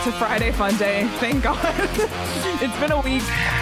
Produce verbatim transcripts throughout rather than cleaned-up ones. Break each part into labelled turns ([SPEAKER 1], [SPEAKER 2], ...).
[SPEAKER 1] It's a Friday fun day. Thank God. It's been a week.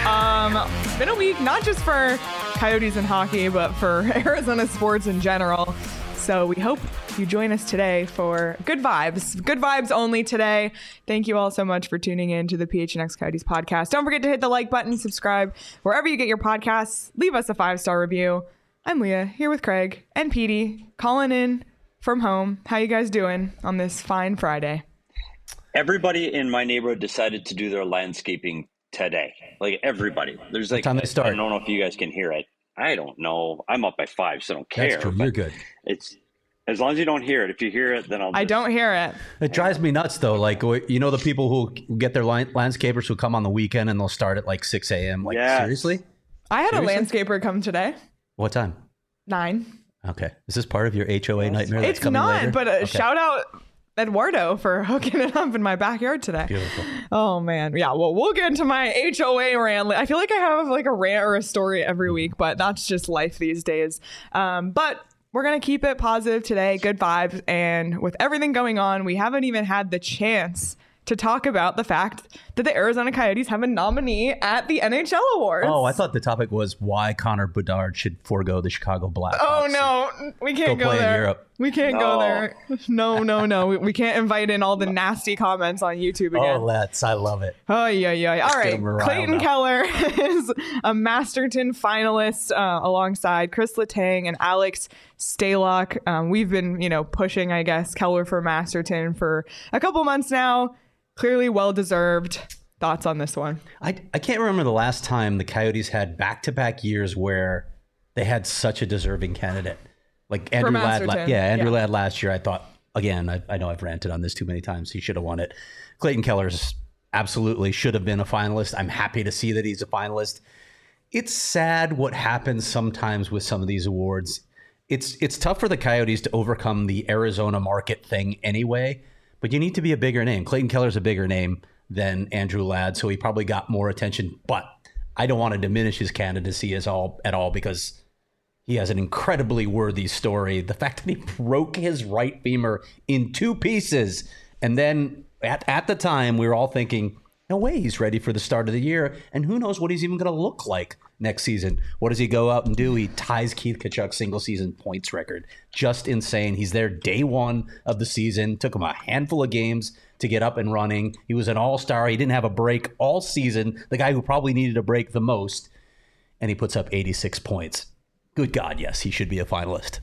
[SPEAKER 1] Um, been a week not just for Coyotes and hockey, but for Arizona sports in general. So we hope you join us today for good vibes. Good vibes only today. Thank you all so much for tuning in to the P H N X Coyotes podcast. Don't forget to hit the like button, subscribe wherever you get your podcasts. Leave us a five-star review. I'm Leah, here with Craig and Petey, calling in from home. How you guys doing on this fine Friday?
[SPEAKER 2] Everybody in my neighborhood decided to do their landscaping today. Like everybody. There's like,
[SPEAKER 3] what time they start?
[SPEAKER 2] I don't know if you guys can hear it. I don't know. I'm up by five, so I don't care.
[SPEAKER 3] That's true. You're good.
[SPEAKER 2] It's as long as you don't hear it. If you hear it, then I'll. Just,
[SPEAKER 1] I don't hear it.
[SPEAKER 3] It drives me nuts though. Like, you know, the people who get their line, landscapers who come on the weekend and they'll start at like six a.m. Like,
[SPEAKER 2] yes.
[SPEAKER 3] seriously?
[SPEAKER 1] I had
[SPEAKER 3] Seriously?
[SPEAKER 1] a landscaper come today.
[SPEAKER 3] What time?
[SPEAKER 1] Nine.
[SPEAKER 3] Okay. Is this part of your H O A nightmare that's
[SPEAKER 1] It's
[SPEAKER 3] coming
[SPEAKER 1] not,
[SPEAKER 3] later?
[SPEAKER 1] but uh,
[SPEAKER 3] Okay.
[SPEAKER 1] shout out Eduardo for hooking it up in my backyard today.
[SPEAKER 3] Beautiful.
[SPEAKER 1] Oh man. Yeah, well, we'll get into my H O A rant. I feel like I have like a rant or a story every week, but that's just life these days. Um, but we're going to keep it positive today. Good vibes. And with everything going on, we haven't even had the chance to talk about the fact that the Arizona Coyotes have a nominee at the N H L Awards.
[SPEAKER 3] Oh, I thought the topic was why Connor Bedard should forego the Chicago Blackhawks.
[SPEAKER 1] Oh no, we can't
[SPEAKER 3] Go
[SPEAKER 1] go,
[SPEAKER 3] play in
[SPEAKER 1] there.
[SPEAKER 3] Europe.
[SPEAKER 1] We can't
[SPEAKER 2] No.
[SPEAKER 1] go there. No, no, no. We, we can't invite in all the nasty comments on YouTube again.
[SPEAKER 3] Oh, let's. I love it.
[SPEAKER 1] Oh, yeah, yeah. All
[SPEAKER 3] get
[SPEAKER 1] right.
[SPEAKER 3] him riled
[SPEAKER 1] Clayton
[SPEAKER 3] up.
[SPEAKER 1] Keller is a Masterton finalist uh, alongside Chris Letang and Alex Stalock. Um, we've been, you know, pushing, I guess, Keller for Masterton for a couple months now. Clearly well-deserved. Thoughts on this one?
[SPEAKER 3] I, I can't remember the last time the Coyotes had back-to-back years where they had such a deserving candidate. Like Andrew Ladd. la-
[SPEAKER 1] Masterton,
[SPEAKER 3] Yeah, Andrew
[SPEAKER 1] yeah.
[SPEAKER 3] Ladd last year, I thought, again, I, I know I've ranted on this too many times. He should have won it. Clayton Keller's absolutely should have been a finalist. I'm happy to see that he's a finalist. It's sad what happens sometimes with some of these awards. It's it's tough for the Coyotes to overcome the Arizona market thing anyway, but you need to be a bigger name. Clayton Keller's a bigger name than Andrew Ladd, so he probably got more attention. But I don't want to diminish his candidacy as all at all because he has an incredibly worthy story. The fact that he broke his right femur in two pieces, and then at, at the time we were all thinking, no way he's ready for the start of the year, and who knows what he's even going to look like next season. What does he go out and do? He ties Keith Tkachuk's single season points record. Just insane. He's there day one of the season. Took him a handful of games to get up and running. He was an all-star. He didn't have a break all season. The guy who probably needed a break the most, and he puts up eighty-six points. Good God, yes, he should be a finalist.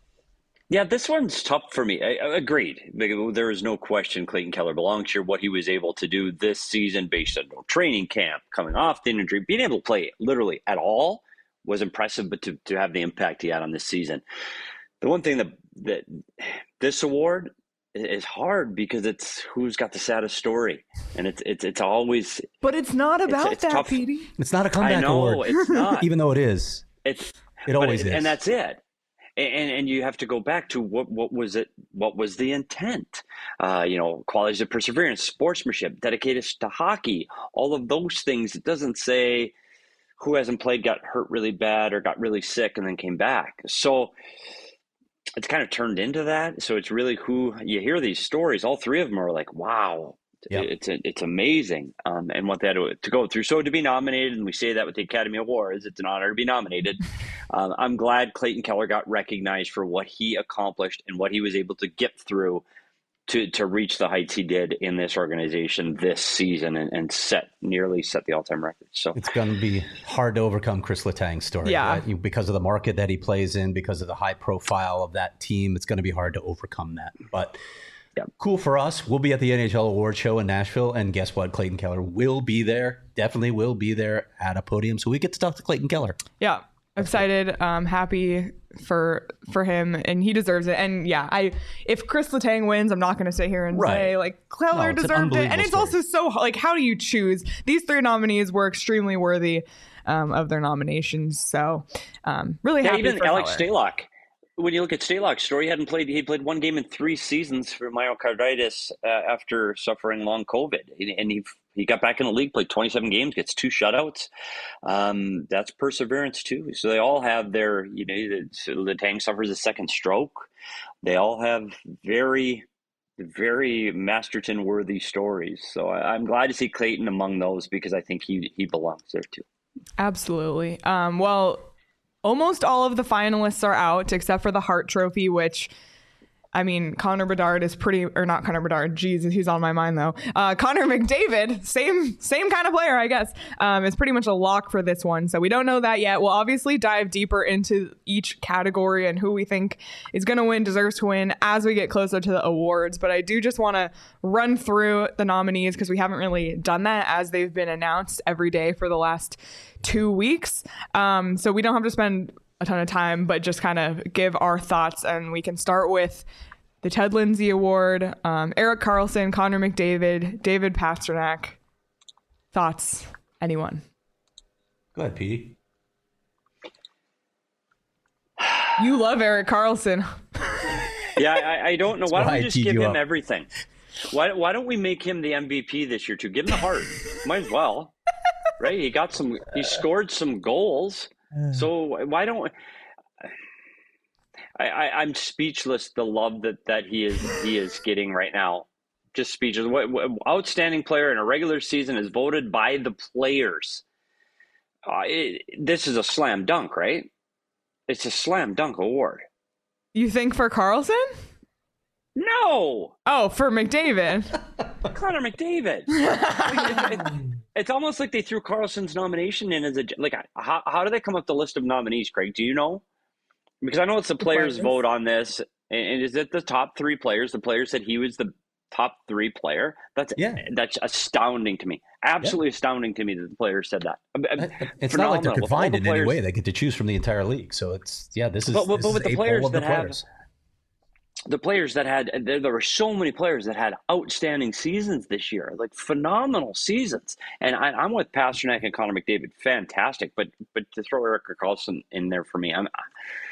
[SPEAKER 2] Yeah, this one's tough for me. I, I agreed. There is no question Clayton Keller belongs here. What he was able to do this season based on no training camp, coming off the injury, being able to play literally at all was impressive, but to, to have the impact he had on this season. The one thing that, that this award is hard because it's who's got the saddest story. And it's it's it's always...
[SPEAKER 1] But it's not about
[SPEAKER 2] it's
[SPEAKER 1] that,
[SPEAKER 2] tough.
[SPEAKER 1] Petey.
[SPEAKER 3] It's not a comeback
[SPEAKER 2] I know,
[SPEAKER 3] award,
[SPEAKER 2] it's not.
[SPEAKER 3] even though it is.
[SPEAKER 2] It's
[SPEAKER 3] It
[SPEAKER 2] but
[SPEAKER 3] always
[SPEAKER 2] it-
[SPEAKER 3] is.
[SPEAKER 2] And that's it. And and you have to go back to what what was it? What was the intent? Uh, you know, qualities of perseverance, sportsmanship, dedicated to hockey, all of those things. It doesn't say who hasn't played, got hurt really bad, or got really sick and then came back. So it's kind of turned into that. So it's really who you hear these stories. All three of them are like, wow.
[SPEAKER 3] Yep.
[SPEAKER 2] It's it's amazing, um, and what they had to, to go through. So to be nominated, and we say that with the Academy Awards, it's an honor to be nominated. um, I'm glad Clayton Keller got recognized for what he accomplished and what he was able to get through to to reach the heights he did in this organization this season, and, and set nearly set the all time record. So
[SPEAKER 3] It's going to be hard to overcome Chris Letang's story.
[SPEAKER 1] Yeah.
[SPEAKER 3] right? You- Because of the market that he plays in, because of the high profile of that team, it's going to be hard to overcome that. But
[SPEAKER 2] Yeah.
[SPEAKER 3] cool for us. We'll be at the N H L Award Show in Nashville, and guess what? Clayton Keller will be there. Definitely will be there at a podium, so we get to talk to Clayton Keller.
[SPEAKER 1] Yeah. Excited, um, happy for for him, and he deserves it. And yeah, I if Chris Letang wins, I'm not going to sit here and
[SPEAKER 3] Right.
[SPEAKER 1] say like Keller
[SPEAKER 3] No, it's an
[SPEAKER 1] deserved it.
[SPEAKER 3] unbelievable
[SPEAKER 1] And it's
[SPEAKER 3] story.
[SPEAKER 1] also so like, how do you choose? These three nominees were extremely worthy um, of their nominations. So um, really
[SPEAKER 2] yeah,
[SPEAKER 1] happy
[SPEAKER 2] even
[SPEAKER 1] for
[SPEAKER 2] Alex
[SPEAKER 1] Keller.
[SPEAKER 2] Stalock. When you look at Stalock's story, he hadn't played. He played one game in three seasons for myocarditis uh, after suffering long COVID, and he he got back in the league, played twenty-seven games, gets two shutouts. Um, that's perseverance too. So they all have their, you know, the, so Letang suffers a second stroke. They all have very very Masterton-worthy stories. So I, I'm glad to see Clayton among those because I think he he belongs there too.
[SPEAKER 1] Absolutely. Um, well, almost all of the finalists are out except for the Hart Trophy, which, I mean, Connor Bedard is pretty, or not Connor Bedard, Jesus, he's on my mind though. Uh, Connor McDavid, same same kind of player, I guess, um, is pretty much a lock for this one. So we don't know that yet. We'll obviously dive deeper into each category and who we think is going to win, deserves to win as we get closer to the awards. But I do just want to run through the nominees because we haven't really done that as they've been announced every day for the last two weeks. Um, so we don't have to spend a ton of time, but just kind of give our thoughts. And we can start with the Ted Lindsay Award, um, Erik Karlsson, Connor McDavid, David Pastrnak. Thoughts? Anyone?
[SPEAKER 3] Go ahead, Petey.
[SPEAKER 1] You love Erik Karlsson.
[SPEAKER 2] Yeah, I, I don't know. Why don't
[SPEAKER 3] why
[SPEAKER 2] we
[SPEAKER 3] I
[SPEAKER 2] just
[SPEAKER 3] teed
[SPEAKER 2] give
[SPEAKER 3] you
[SPEAKER 2] him
[SPEAKER 3] up.
[SPEAKER 2] everything? Why Why don't we make him the M V P this year too? Give him the Hart. Might as well, right? He got some. He scored some goals. So why don't I, I? I'm speechless. The love that, that he is he is getting right now, just speechless. What, what outstanding player in a regular season is voted by the players. Uh, it, this is a slam dunk, right? It's a slam dunk award.
[SPEAKER 1] You think for Karlsson?
[SPEAKER 2] No.
[SPEAKER 1] Oh, for McDavid.
[SPEAKER 2] Connor McDavid. Like, it, it, it's almost like they threw Karlsson's nomination in as a like. How how do they come up with the list of nominees, Craig? Do you know? Because I know it's the players
[SPEAKER 1] players.
[SPEAKER 2] vote on this, and, and is it the top three players? The players said he was the top three player. That's
[SPEAKER 3] Yeah.
[SPEAKER 2] That's astounding to me. Absolutely yeah. astounding to me that the players said that.
[SPEAKER 3] It's
[SPEAKER 2] Phenomenal.
[SPEAKER 3] not like they're
[SPEAKER 2] With all
[SPEAKER 3] confined
[SPEAKER 2] the
[SPEAKER 3] in
[SPEAKER 2] players,
[SPEAKER 3] any way. They get to choose from the entire league. So it's yeah. This is
[SPEAKER 2] but, but,
[SPEAKER 3] this
[SPEAKER 2] but
[SPEAKER 3] is
[SPEAKER 2] with the
[SPEAKER 3] a
[SPEAKER 2] players
[SPEAKER 3] poll of
[SPEAKER 2] that
[SPEAKER 3] the
[SPEAKER 2] have.
[SPEAKER 3] players.
[SPEAKER 2] The players that had, there, there were so many players that had outstanding seasons this year, like phenomenal seasons. And I, I'm with Pastrnak and Connor McDavid, fantastic. But but to throw Erik Karlsson in there for me, I'm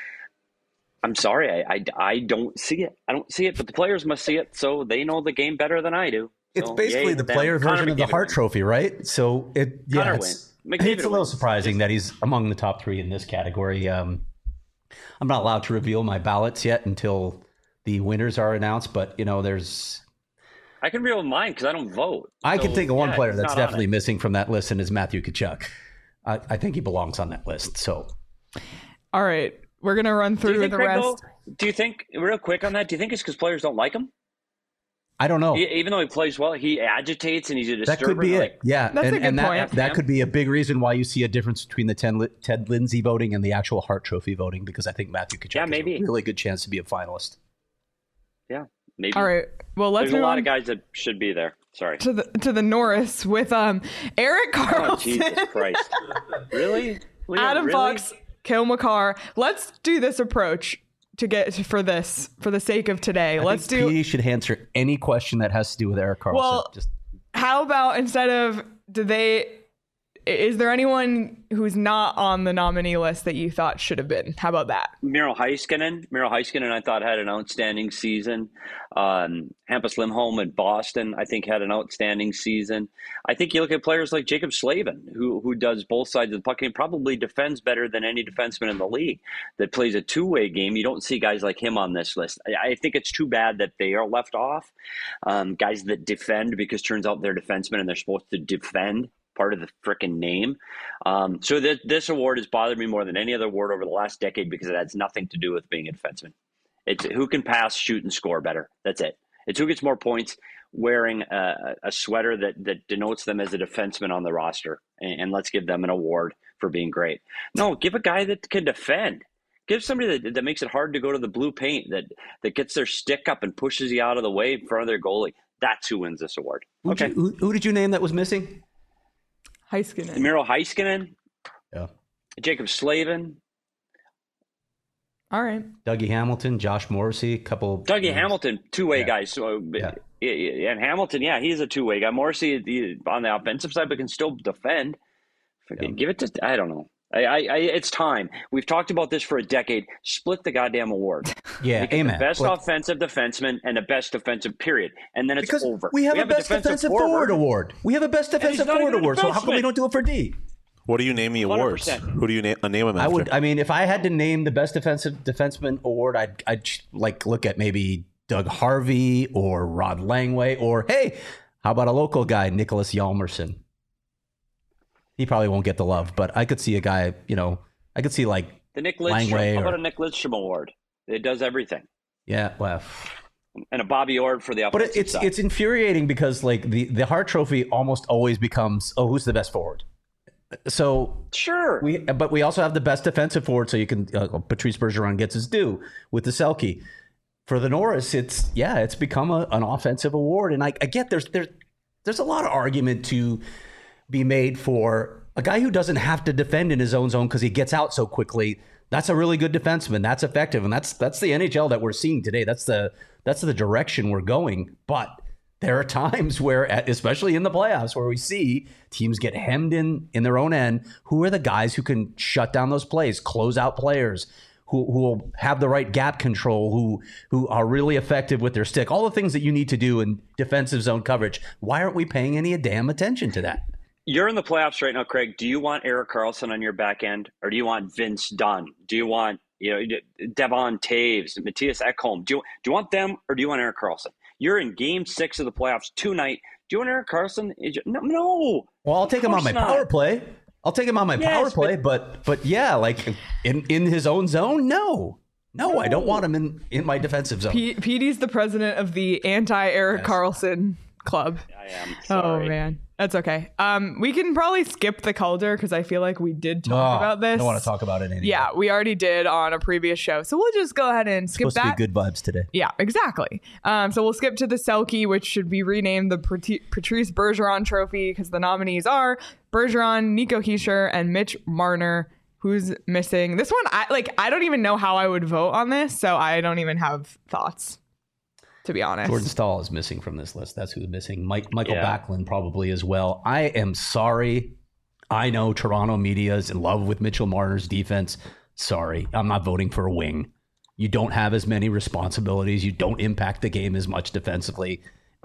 [SPEAKER 2] I'm sorry, I, I, I don't see it. I don't see it, but the players must see it, so they know the game better than I do.
[SPEAKER 3] It's
[SPEAKER 2] So,
[SPEAKER 3] basically
[SPEAKER 2] yay
[SPEAKER 3] the
[SPEAKER 2] to them.
[SPEAKER 3] player
[SPEAKER 2] Connor
[SPEAKER 3] version of the
[SPEAKER 2] McDavid
[SPEAKER 3] Hart
[SPEAKER 2] wins.
[SPEAKER 3] Trophy, right? So it yeah,
[SPEAKER 2] Connor
[SPEAKER 3] it's,
[SPEAKER 2] wins. McDavid
[SPEAKER 3] it's a little
[SPEAKER 2] wins.
[SPEAKER 3] surprising
[SPEAKER 2] Just-
[SPEAKER 3] that he's among the top three in this category. Um, I'm not allowed to reveal my ballots yet until the winners are announced, but you know, there's
[SPEAKER 2] I can reveal mine because I don't vote.
[SPEAKER 3] I
[SPEAKER 2] So,
[SPEAKER 3] can think of one
[SPEAKER 2] yeah,
[SPEAKER 3] player
[SPEAKER 2] he's
[SPEAKER 3] that's
[SPEAKER 2] not on
[SPEAKER 3] definitely
[SPEAKER 2] it.
[SPEAKER 3] missing from that list, and is Matthew Tkachuk. I, I think he belongs on that list. So
[SPEAKER 1] All right. We're going to run
[SPEAKER 2] Do
[SPEAKER 1] through
[SPEAKER 2] you think,
[SPEAKER 1] the
[SPEAKER 2] Craig,
[SPEAKER 1] rest.
[SPEAKER 2] though, do you think, real quick on that, do you think it's because players don't like him?
[SPEAKER 3] I don't know.
[SPEAKER 2] He, even though he plays well, he agitates and he's a
[SPEAKER 3] That
[SPEAKER 2] disturber.
[SPEAKER 3] could be
[SPEAKER 2] like,
[SPEAKER 3] it. Yeah,
[SPEAKER 1] That's a
[SPEAKER 3] and,
[SPEAKER 1] good
[SPEAKER 3] and that,
[SPEAKER 1] point.
[SPEAKER 3] that could be a big reason why you see a difference between the Ted, Ted Lindsay voting and the actual Hart Trophy voting, because I think Matthew Tkachuk
[SPEAKER 2] Yeah,
[SPEAKER 3] has
[SPEAKER 2] maybe.
[SPEAKER 3] a really good chance to be a finalist.
[SPEAKER 2] Yeah, maybe.
[SPEAKER 1] All right. Well, let's
[SPEAKER 2] There's a
[SPEAKER 1] move
[SPEAKER 2] lot
[SPEAKER 1] on
[SPEAKER 2] of guys that should be there. Sorry.
[SPEAKER 1] to the to the Norris with um Erik
[SPEAKER 2] Oh,
[SPEAKER 1] Karlsson,
[SPEAKER 2] Jesus Christ. Really? Leah,
[SPEAKER 1] Adam
[SPEAKER 2] really?
[SPEAKER 1] Fox, Cale Makar. Let's do this approach to get for this for the sake of today.
[SPEAKER 3] I
[SPEAKER 1] Let's
[SPEAKER 3] think
[SPEAKER 1] do.
[SPEAKER 3] P D should answer any question that has to do with Erik Karlsson.
[SPEAKER 1] Well,
[SPEAKER 3] Just
[SPEAKER 1] How about instead of do they? Is there anyone who's not on the nominee list that you thought should have been? How about that?
[SPEAKER 2] Miro Heiskanen. Miro Heiskanen, I thought, had an outstanding season. Um, Hampus Lindholm in Boston, I think, had an outstanding season. I think you look at players like Jacob Slavin, who who does both sides of the puck and probably defends better than any defenseman in the league that plays a two-way game. You don't see guys like him on this list. I, I think it's too bad that they are left off. Um, guys that defend, because turns out they're defensemen and they're supposed to defend. Part of the frickin' name. Um, so th- this award has bothered me more than any other award over the last decade because it has nothing to do with being a defenseman. It's who can pass, shoot, and score better. That's it. It's who gets more points wearing a, a sweater that, that denotes them as a defenseman on the roster. And, and let's give them an award for being great. No, give a guy that can defend. Give somebody that, that makes it hard to go to the blue paint, that, that gets their stick up and pushes you out of the way in front of their goalie. That's who wins this award.
[SPEAKER 3] Who'd
[SPEAKER 2] Okay.
[SPEAKER 3] you- who, who did you name that was missing?
[SPEAKER 1] Heiskanen.
[SPEAKER 2] Miro Heiskanen.
[SPEAKER 3] Yeah.
[SPEAKER 2] Jacob Slavin.
[SPEAKER 1] All right.
[SPEAKER 3] Dougie Hamilton, Josh Morrissey, a couple.
[SPEAKER 2] Dougie
[SPEAKER 3] names.
[SPEAKER 2] Hamilton, two-way
[SPEAKER 3] Yeah.
[SPEAKER 2] guy. So,
[SPEAKER 3] Yeah.
[SPEAKER 2] yeah, yeah, and Hamilton, yeah, he's a two-way guy. Morrissey he- on the offensive side, but can still defend.
[SPEAKER 3] Yeah.
[SPEAKER 2] Give it to, I don't know. I, I, I, it's time. We've talked about this for a decade. Split the goddamn award.
[SPEAKER 3] Yeah,
[SPEAKER 2] Make it
[SPEAKER 3] amen.
[SPEAKER 2] the best
[SPEAKER 3] But-
[SPEAKER 2] offensive defenseman and the best defensive period, and then it's
[SPEAKER 3] because
[SPEAKER 2] over.
[SPEAKER 3] we have a best defensive forward award. We have a best
[SPEAKER 2] he's
[SPEAKER 3] defensive
[SPEAKER 2] not
[SPEAKER 3] forward
[SPEAKER 2] even a
[SPEAKER 3] award. So how come we
[SPEAKER 2] defenseman.
[SPEAKER 3] don't do it for D?
[SPEAKER 4] What do you name the awards?
[SPEAKER 2] one hundred percent.
[SPEAKER 4] Who do you name, uh, name them
[SPEAKER 3] I
[SPEAKER 4] after?
[SPEAKER 3] would. I mean, if I had to name the best defensive defenseman award, I'd I'd like look at maybe Doug Harvey or Rod Langway, or hey, how about a local guy, Nicholas Hjalmarsson? He probably won't get the love, but I could see a guy, you know, I could see like
[SPEAKER 2] the Nick Lidstrom. How
[SPEAKER 3] or,
[SPEAKER 2] about a Nick Lidstrom award? It does everything.
[SPEAKER 3] Yeah, well,
[SPEAKER 2] and a Bobby Orr for the offensive
[SPEAKER 3] but it's
[SPEAKER 2] side.
[SPEAKER 3] It's infuriating because like the the Hart Trophy almost always becomes, oh, who's the best forward? So
[SPEAKER 2] sure,
[SPEAKER 3] we but we also have the best defensive forward, so you can uh, Patrice Bergeron gets his due with the Selke. For the Norris, it's yeah, it's become a, an offensive award, and I, I get there's there's there's a lot of argument to be made for a guy who doesn't have to defend in his own zone because he gets out so quickly. That's a really good defenseman. That's effective, and that's that's the N H L that we're seeing today. That's the that's the direction we're going. But there are times where, especially in the playoffs, where we see teams get hemmed in in their own end. Who are the guys who can shut down those plays, close out players, who who will have the right gap control, who who are really effective with their stick? All the things that you need to do in defensive zone coverage. Why aren't we paying any damn attention to that?
[SPEAKER 2] You're in the playoffs right now, Craig. Do you want Erik Karlsson on your back end, or do you want Vince Dunn? Do you want you know Devon Taves, Matthias Ekholm? Do you do you want them, or do you want Erik Karlsson? You're in Game Six of the playoffs tonight. Do you want Erik Karlsson? No, no.
[SPEAKER 3] Well, I'll take him on my not. power play. I'll take him on my yes, power play, but, but but yeah, like in in his own zone, no. No, no. I don't want him in, in my defensive zone.
[SPEAKER 1] P- Petey's the president of the anti-Erik yes. Karlsson club.
[SPEAKER 2] I am sorry.
[SPEAKER 1] Oh man, that's okay. Um, we can probably skip the Calder because I feel like we did talk
[SPEAKER 3] no,
[SPEAKER 1] about this.
[SPEAKER 3] I don't want to talk about it anymore.
[SPEAKER 1] Yeah, we already did on a previous show, so we'll just go ahead and skip
[SPEAKER 3] it's
[SPEAKER 1] that.
[SPEAKER 3] supposed to be good vibes today.
[SPEAKER 1] Yeah, exactly. Um, so we'll skip to the Selke, which should be renamed the Patrice Bergeron Trophy because the nominees are Bergeron, Nico Hischier, and Mitch Marner. Who's missing? This one, I like. I don't even know how I would vote on this, so I don't even have thoughts. To be honest,
[SPEAKER 3] Jordan Staal is missing from this list. That's who's missing. Mike, Michael
[SPEAKER 2] yeah.
[SPEAKER 3] Backlund probably as well. I am sorry. I know Toronto media is in love with Mitchell Marner's defense. Sorry, I'm not voting for a wing. You don't have as many responsibilities. You don't impact the game as much defensively.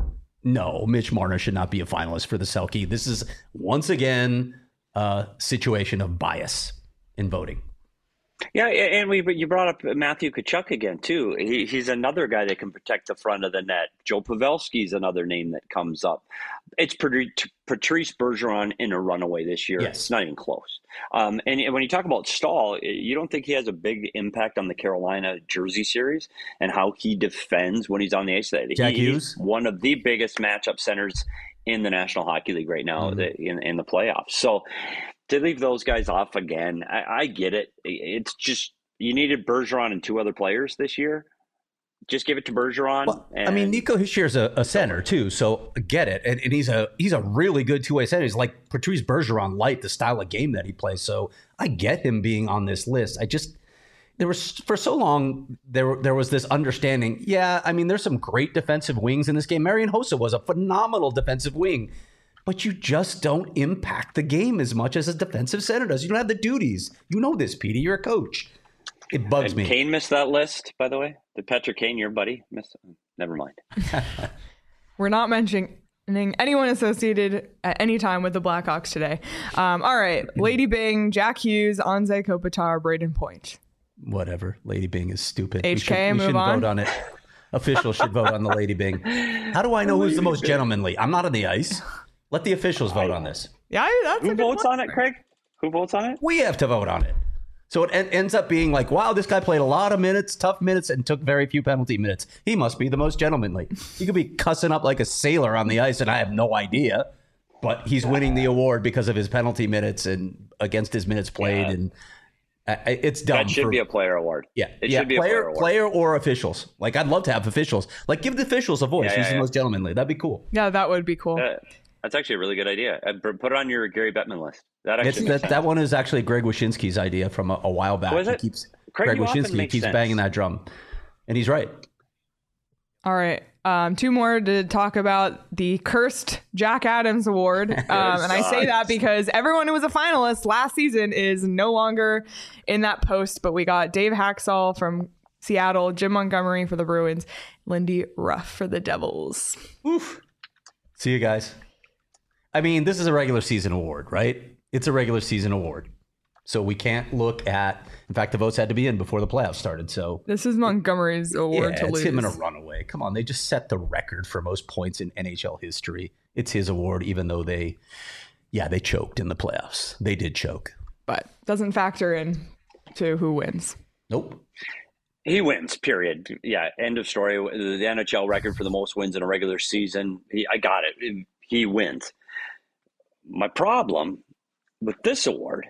[SPEAKER 3] No, Mitch Marner should not be a finalist for the Selke. This is once again a situation of bias in voting.
[SPEAKER 2] Yeah, and we you brought up Matthew Tkachuk again too. He, he's another guy that can protect the front of the net. Joe Pavelski's another name that comes up. It's Patrice Bergeron in a runaway this year.
[SPEAKER 3] Yes.
[SPEAKER 2] It's not even close. Um, and when you talk about Staal, you don't think he has a big impact on the Carolina Jersey series and how he defends when he's on the ice?
[SPEAKER 3] Jack
[SPEAKER 2] he,
[SPEAKER 3] Hughes,
[SPEAKER 2] he's one of the biggest matchup centers in the National Hockey League right now, mm-hmm. the, in, in the playoffs. So to leave those guys off again, I, I get it. It's just you needed Bergeron and two other players this year. Just give it to Bergeron.
[SPEAKER 3] Well,
[SPEAKER 2] and
[SPEAKER 3] I mean, Nico Hischier's a, a center too, so get it. And, and he's a he's a really good two way center. He's like Patrice Bergeron light, the style of game that he plays. So I get him being on this list. I just there was for so long there there was this understanding. Yeah, I mean, there's some great defensive wings in this game. Marian Hossa was a phenomenal defensive wing. But you just don't impact the game as much as a defensive center does. You don't have the duties. You know this, Petey. You're a coach. It bugs
[SPEAKER 2] Did
[SPEAKER 3] me.
[SPEAKER 2] Kane missed that list, by the way? Did Patrick Kane, your buddy, miss? Never mind.
[SPEAKER 1] We're not mentioning anyone associated at any time with the Blackhawks today. Um, all right. Lady Bing, Jack Hughes, Anze Kopitar, Braden Point.
[SPEAKER 3] Whatever. Lady Bing is stupid.
[SPEAKER 1] H K,
[SPEAKER 3] we, should, we
[SPEAKER 1] move
[SPEAKER 3] shouldn't
[SPEAKER 1] on.
[SPEAKER 3] vote on it. Officials should vote on the Lady Bing. How do I know who's the most gentlemanly? I'm not on the ice. Let the officials vote on this.
[SPEAKER 1] Yeah, that's
[SPEAKER 2] Who
[SPEAKER 1] a good
[SPEAKER 2] votes
[SPEAKER 1] point.
[SPEAKER 2] on it, Craig? Who votes on it?
[SPEAKER 3] We have to vote on it. So it en- ends up being like, wow, this guy played a lot of minutes, tough minutes, and took very few penalty minutes. He must be the most gentlemanly. He could be cussing up like a sailor on the ice, and I have no idea. But he's winning the award because of his penalty minutes and against his minutes played.
[SPEAKER 2] Yeah.
[SPEAKER 3] And uh, it's dumb.
[SPEAKER 2] That should
[SPEAKER 3] for,
[SPEAKER 2] be a player award.
[SPEAKER 3] Yeah,
[SPEAKER 2] it
[SPEAKER 3] yeah,
[SPEAKER 2] should be
[SPEAKER 3] player,
[SPEAKER 2] a player award.
[SPEAKER 3] Player or officials. Like, I'd love to have officials. Like, give the officials a voice.
[SPEAKER 2] Yeah, yeah,
[SPEAKER 3] Who's the
[SPEAKER 2] yeah.
[SPEAKER 3] most gentlemanly? That'd be cool.
[SPEAKER 1] Yeah, that would be cool.
[SPEAKER 2] Uh, that's actually a really good idea. Uh, Put it on your Gary Bettman list. That actually
[SPEAKER 3] It's,
[SPEAKER 2] makes
[SPEAKER 3] that,
[SPEAKER 2] sense.
[SPEAKER 3] that one is actually Greg Wyshynski's idea from a, a while back.
[SPEAKER 2] Was
[SPEAKER 3] He
[SPEAKER 2] it?
[SPEAKER 3] keeps
[SPEAKER 2] Craig,
[SPEAKER 3] Greg
[SPEAKER 2] you often
[SPEAKER 3] Wyshynski
[SPEAKER 2] make
[SPEAKER 3] keeps
[SPEAKER 2] sense.
[SPEAKER 3] banging that drum, and he's right.
[SPEAKER 1] All right. Um, two more to talk about the cursed Jack Adams Award. Um, and I say that because everyone who was a finalist last season is no longer in that post. But we got Dave Haxall from Seattle, Jim Montgomery for the Bruins, Lindy Ruff for the Devils.
[SPEAKER 3] Oof. See you guys. I mean, this is a regular season award, right? It's a regular season award. So we can't look at, in fact, the votes had to be in before the playoffs started. So
[SPEAKER 1] This is Montgomery's award
[SPEAKER 3] yeah,
[SPEAKER 1] to
[SPEAKER 3] it's
[SPEAKER 1] lose.
[SPEAKER 3] him in a runaway. Come on, they just set the record for most points in N H L history. It's his award, even though they, yeah, they choked in the playoffs. They did choke.
[SPEAKER 1] But doesn't factor in to who wins.
[SPEAKER 3] Nope.
[SPEAKER 2] He wins, period. Yeah, end of story. The N H L record for the most wins in a regular season. He, I got it. He wins. My problem with this award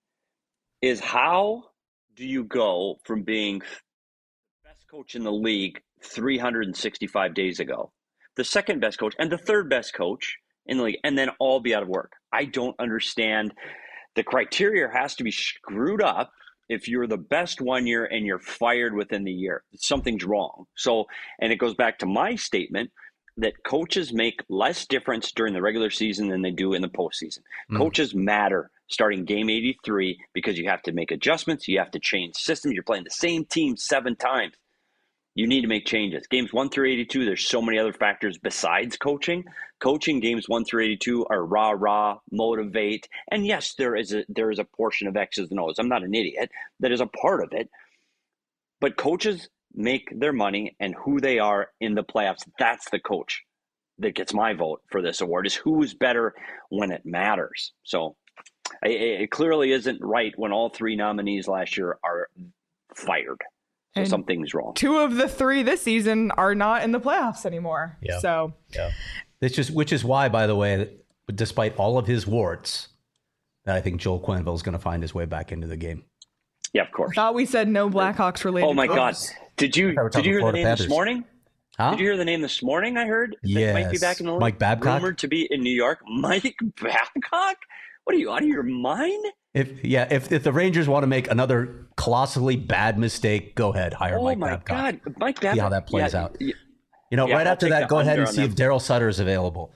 [SPEAKER 2] is how do you go from being the best coach in the league three hundred sixty-five days ago, the second best coach and the third best coach in the league, and then all be out of work? I don't understand. The criteria has to be screwed up. If you're the best one year and you're fired within the year, something's wrong. So, and it goes back to my statement that coaches make less difference during the regular season than they do in the postseason. Mm. Coaches matter starting game eighty-three because you have to make adjustments. You have to change systems. You're playing the same team seven times. You need to make changes. Games one through eighty-two, there's so many other factors besides coaching. Coaching games one through eighty-two are rah, rah, motivate. And yes, there is a there is a portion of X's and O's. I'm not an idiot. That is a part of it. But coaches make their money and who they are in the playoffs. That's the coach that gets my vote for this award, is who's better when it matters. So it, it clearly isn't right when all three nominees last year are fired. So
[SPEAKER 1] And
[SPEAKER 2] something's wrong.
[SPEAKER 1] Two of the three this season are not in the playoffs anymore.
[SPEAKER 3] Yeah.
[SPEAKER 1] So
[SPEAKER 3] yeah, it's just which is why, by the way, despite all of his warts, that I think Joel Quenneville is going to find his way back into the game.
[SPEAKER 2] Yeah, of course.
[SPEAKER 1] I thought we said no Blackhawks related.
[SPEAKER 2] Oh my God!
[SPEAKER 1] votes.
[SPEAKER 2] Did you did you hear the name
[SPEAKER 3] Panthers.
[SPEAKER 2] this morning?
[SPEAKER 3] Huh?
[SPEAKER 2] Did you hear the name this morning? I heard that
[SPEAKER 3] Yes.
[SPEAKER 2] might be back in the league.
[SPEAKER 3] Mike Babcock?
[SPEAKER 2] Rumored to be in New York. Mike Babcock? What are you, out of your mind?
[SPEAKER 3] If yeah, if if the Rangers want to make another colossally bad mistake, go ahead, hire
[SPEAKER 2] Oh
[SPEAKER 3] Mike
[SPEAKER 2] my
[SPEAKER 3] Babcock.
[SPEAKER 2] God, Mike Babcock.
[SPEAKER 3] See how that plays
[SPEAKER 2] yeah,
[SPEAKER 3] out.
[SPEAKER 2] Yeah.
[SPEAKER 3] You know,
[SPEAKER 2] Yeah,
[SPEAKER 3] right
[SPEAKER 2] I'll
[SPEAKER 3] after
[SPEAKER 2] take
[SPEAKER 3] that,
[SPEAKER 2] the
[SPEAKER 3] go ahead
[SPEAKER 2] under
[SPEAKER 3] and
[SPEAKER 2] on
[SPEAKER 3] see if
[SPEAKER 2] that.
[SPEAKER 3] Daryl Sutter is available.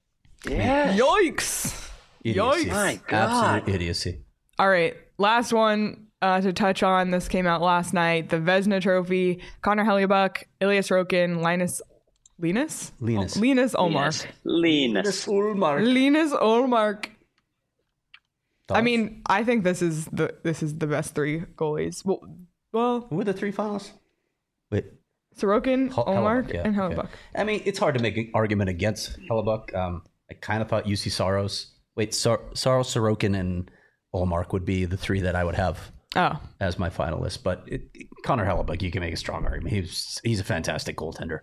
[SPEAKER 2] Yes.
[SPEAKER 1] Yikes.
[SPEAKER 3] Idiocy.
[SPEAKER 1] Yikes.
[SPEAKER 2] My God.
[SPEAKER 3] Absolute idiocy.
[SPEAKER 1] All right. Last one uh, to touch on. This came out last night. The Vezina Trophy. Connor Hellebuyck, Elias Roken, Linus. Linus?
[SPEAKER 3] Linus.
[SPEAKER 1] Oh, Linus Olmark.
[SPEAKER 2] Linus.
[SPEAKER 1] Linus Olmark. I
[SPEAKER 3] Thoughts?
[SPEAKER 1] mean, I think this is the this is the best three goalies. Well, well,
[SPEAKER 3] Who were the three finals? Wait,
[SPEAKER 1] Sorokin,
[SPEAKER 3] Hel-
[SPEAKER 1] Olmark,
[SPEAKER 3] Hellebuck, yeah,
[SPEAKER 1] and
[SPEAKER 3] okay.
[SPEAKER 1] Hellebuyck.
[SPEAKER 3] I mean, it's hard to make an argument against Hellebuck. Um, I kind of thought U C Saros. Wait, Sar- Saros, Sorokin, and Olmark would be the three that I would have
[SPEAKER 1] Oh,
[SPEAKER 3] as my finalists. But it, Connor Hellebuck, you can make a strong argument. He's he's a fantastic goaltender.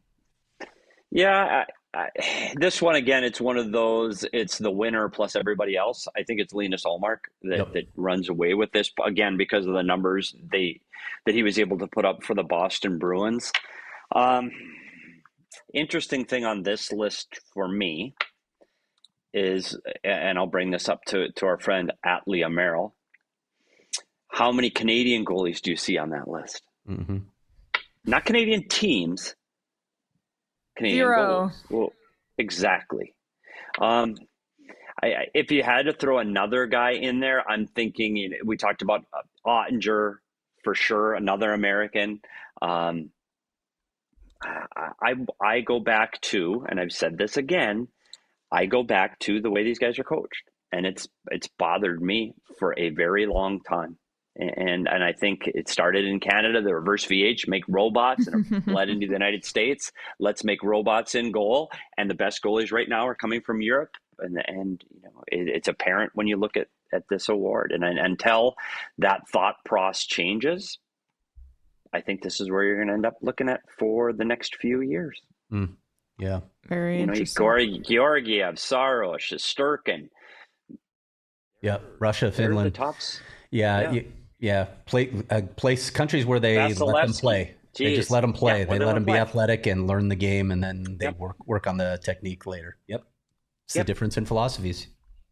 [SPEAKER 2] Yeah, I, I, this one again, it's one of those. It's the winner plus everybody else. I think it's Linus Ullmark that,
[SPEAKER 3] Yep.
[SPEAKER 2] that runs away with this again because of the numbers they that he was able to put up for the Boston Bruins. Um, interesting thing on this list for me is, and I'll bring this up to to our friend at Leah Merrill. How many Canadian goalies do you see on that list?
[SPEAKER 3] Mm-hmm.
[SPEAKER 2] Not Canadian teams. Canadian
[SPEAKER 1] Zero.
[SPEAKER 2] goals. Well, exactly. Um, I, I, if you had to throw another guy in there, I'm thinking, you know, we talked about uh, Ottinger for sure, another American. Um, I, I I go back to, and I've said this again, I go back to the way these guys are coached, and it's it's bothered me for a very long time. And and I think it started in Canada, the reverse V H, make robots, and it bled into the United States. Let's make robots in goal. And the best goalies right now are coming from Europe. And, and you know, it, it's apparent when you look at, at this award. And, and until that thought process changes, I think this is where you're going to end up looking at for the next few years.
[SPEAKER 3] Mm. Yeah.
[SPEAKER 1] very
[SPEAKER 2] You know,
[SPEAKER 1] interesting.
[SPEAKER 2] Georg- Georgiev, Saros, Shesterkin.
[SPEAKER 3] Yeah. Russia,
[SPEAKER 2] They're the
[SPEAKER 3] Finland.
[SPEAKER 2] tops.
[SPEAKER 3] Yeah.
[SPEAKER 2] Yeah.
[SPEAKER 3] Yeah. yeah. Play, uh, place countries where they let them
[SPEAKER 2] Vasilevsky.
[SPEAKER 3] play. They just
[SPEAKER 2] Jeez.
[SPEAKER 3] let them play.
[SPEAKER 2] Yeah,
[SPEAKER 3] they
[SPEAKER 2] let
[SPEAKER 3] let
[SPEAKER 2] them
[SPEAKER 3] them be
[SPEAKER 2] play.
[SPEAKER 3] athletic and learn the game, and then they
[SPEAKER 2] Yep.
[SPEAKER 3] work work on the technique later. Yep. It's
[SPEAKER 2] Yep.
[SPEAKER 3] the difference in philosophies.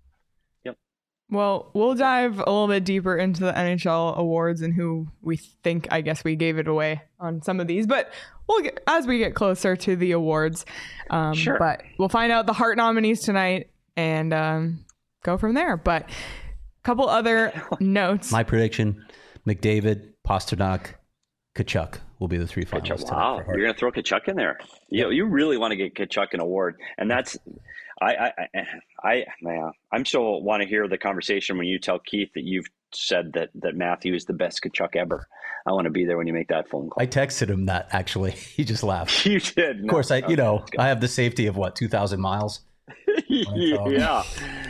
[SPEAKER 1] Well, we'll dive a little bit deeper into the N H L awards and who we think, I guess we gave it away on some of these, but we'll get, as we get closer to the awards. Um,
[SPEAKER 2] Sure.
[SPEAKER 1] But we'll find out the Hart nominees tonight and um, go from there. But a couple other notes.
[SPEAKER 3] My prediction: McDavid, Pasternak, Kachuk will be the three finalists.
[SPEAKER 2] Kachuk, wow,
[SPEAKER 3] tonight for Hart.
[SPEAKER 2] you're going to throw Kachuk in there. You, you really want to get Kachuk an award. And that's, I, I, I, I, I'm still want to hear the conversation when you tell Keith that you've said that that Matthew is the best Tkachuk ever. I want to be there when you make that phone call.
[SPEAKER 3] I texted him that actually. He just laughed.
[SPEAKER 2] You did.
[SPEAKER 3] Of course, I you know I have the safety of what two thousand miles.
[SPEAKER 2] Yeah.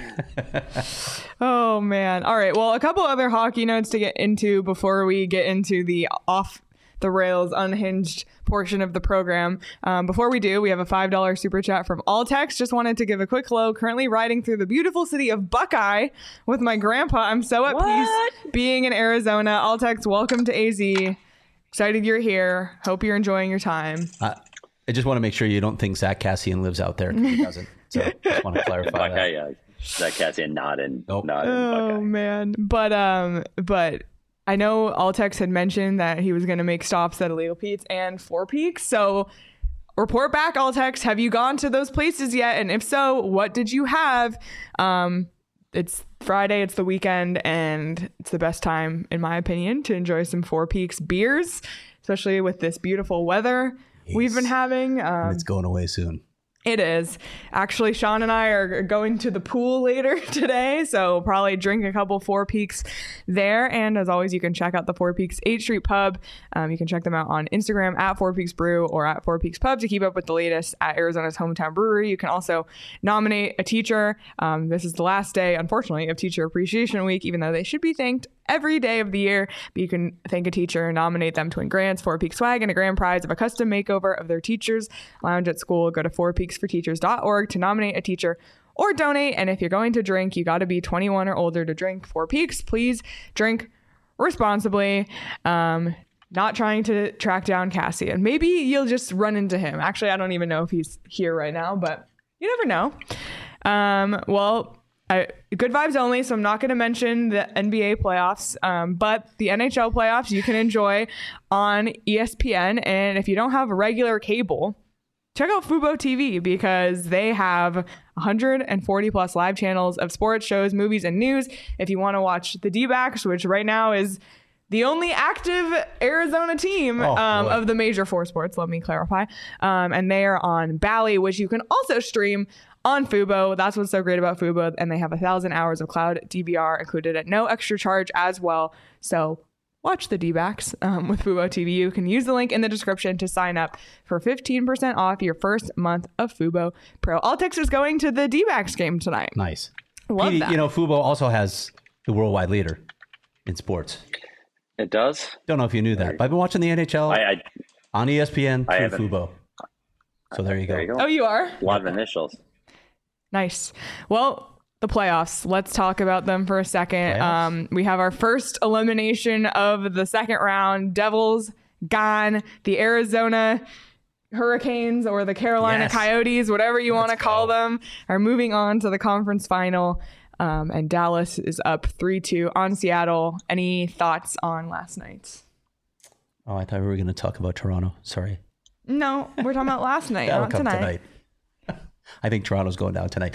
[SPEAKER 1] Oh man. All right. Well, a couple other hockey notes to get into before we get into the off the rails unhinged portion of the program. Um, before we do, we have a five dollar super chat from Altex. Just wanted to give a quick hello. Currently riding through the beautiful city of Buckeye with my grandpa. I'm so at
[SPEAKER 2] What?
[SPEAKER 1] peace being in Arizona. Altex, welcome to A Z. Excited you're here. Hope you're enjoying your time.
[SPEAKER 3] Uh, I just want to make sure you don't think Zach Cassian lives out there. He doesn't. So just want to clarify
[SPEAKER 2] Buckeye,
[SPEAKER 3] that.
[SPEAKER 2] yeah. Zach Cassian not in,
[SPEAKER 3] Nope.
[SPEAKER 2] not in
[SPEAKER 1] Oh
[SPEAKER 2] Buckeye.
[SPEAKER 1] man. But um but I know Altex had mentioned that he was going to make stops at Illegal Pete's and Four Peaks. So report back, Altex. Have you gone to those places yet? And if so, what did you have? Um, it's Friday. It's the weekend. And it's the best time, in my opinion, to enjoy some Four Peaks beers, especially with this beautiful weather we've been having. Um,
[SPEAKER 3] It's going away soon.
[SPEAKER 1] It is. Actually, Sean and I are going to the pool later today, so probably drink a couple Four Peaks there. And as always, you can check out the Four Peaks eighth Street Pub. Um, you can check them out on Instagram at Four Peaks Brew or at Four Peaks Pub to keep up with the latest at Arizona's hometown brewery. You can also nominate a teacher. Um, this is the last day, unfortunately, of Teacher Appreciation Week, even though they should be thanked every day of the year. But you can thank a teacher and nominate them to win grants, Four Peaks swag, and a grand prize of a custom makeover of their teachers' lounge at school. Go to four peaks for teachers dot org to nominate a teacher or donate. And if you're going to drink, you got to be twenty-one or older to drink Four Peaks. Please drink responsibly. Um, not trying to track down Cassian. Maybe you'll just run into him. Actually, I don't even know if he's here right now, but you never know. Um, well, I, good vibes only, so I'm not going to mention the N B A playoffs, um, but the N H L playoffs you can enjoy on E S P N. And if you don't have regular cable, check out Fubo T V because they have one hundred forty plus live channels of sports, shows, movies, and news. If you want to watch the D-backs, which right now is the only active Arizona team
[SPEAKER 3] Oh,
[SPEAKER 1] um,
[SPEAKER 3] boy.
[SPEAKER 1] of the major four sports, let me clarify. Um, and they are on Bally, which you can also stream on Fubo. That's what's so great about Fubo. And they have a thousand hours of cloud D V R included at no extra charge as well. So watch the D-backs um, with Fubo T V. You can use the link in the description to sign up for fifteen percent off your first month of Fubo Pro. Altex is going to the D-backs game tonight.
[SPEAKER 3] Nice.
[SPEAKER 1] Love
[SPEAKER 3] Petey,
[SPEAKER 1] that.
[SPEAKER 3] you know, Fubo also has the worldwide leader in sports.
[SPEAKER 2] It does.
[SPEAKER 3] Don't know if you knew that, but I've been watching the N H L
[SPEAKER 2] I, I
[SPEAKER 3] on E S P N
[SPEAKER 2] I
[SPEAKER 3] through
[SPEAKER 2] haven't.
[SPEAKER 3] Fubo. So there you go.
[SPEAKER 2] there you go.
[SPEAKER 1] Oh, you are?
[SPEAKER 2] A lot of initials.
[SPEAKER 1] Nice. Well, the playoffs. Let's talk about them for a second.
[SPEAKER 3] Playoffs?
[SPEAKER 1] Um, we have our first elimination of the second round. Devils gone. The Arizona Hurricanes or the Carolina
[SPEAKER 3] Yes.
[SPEAKER 1] Coyotes, whatever you want to
[SPEAKER 3] Let's
[SPEAKER 1] call
[SPEAKER 3] go.
[SPEAKER 1] them, are moving on to the conference final. Um, and Dallas is up three two on Seattle. Any thoughts on last night's?
[SPEAKER 3] Oh, I thought we were going to talk about Toronto. Sorry.
[SPEAKER 1] No, we're talking about last night,
[SPEAKER 3] That'll
[SPEAKER 1] not
[SPEAKER 3] come
[SPEAKER 1] tonight.
[SPEAKER 3] tonight. I think Toronto's going down tonight.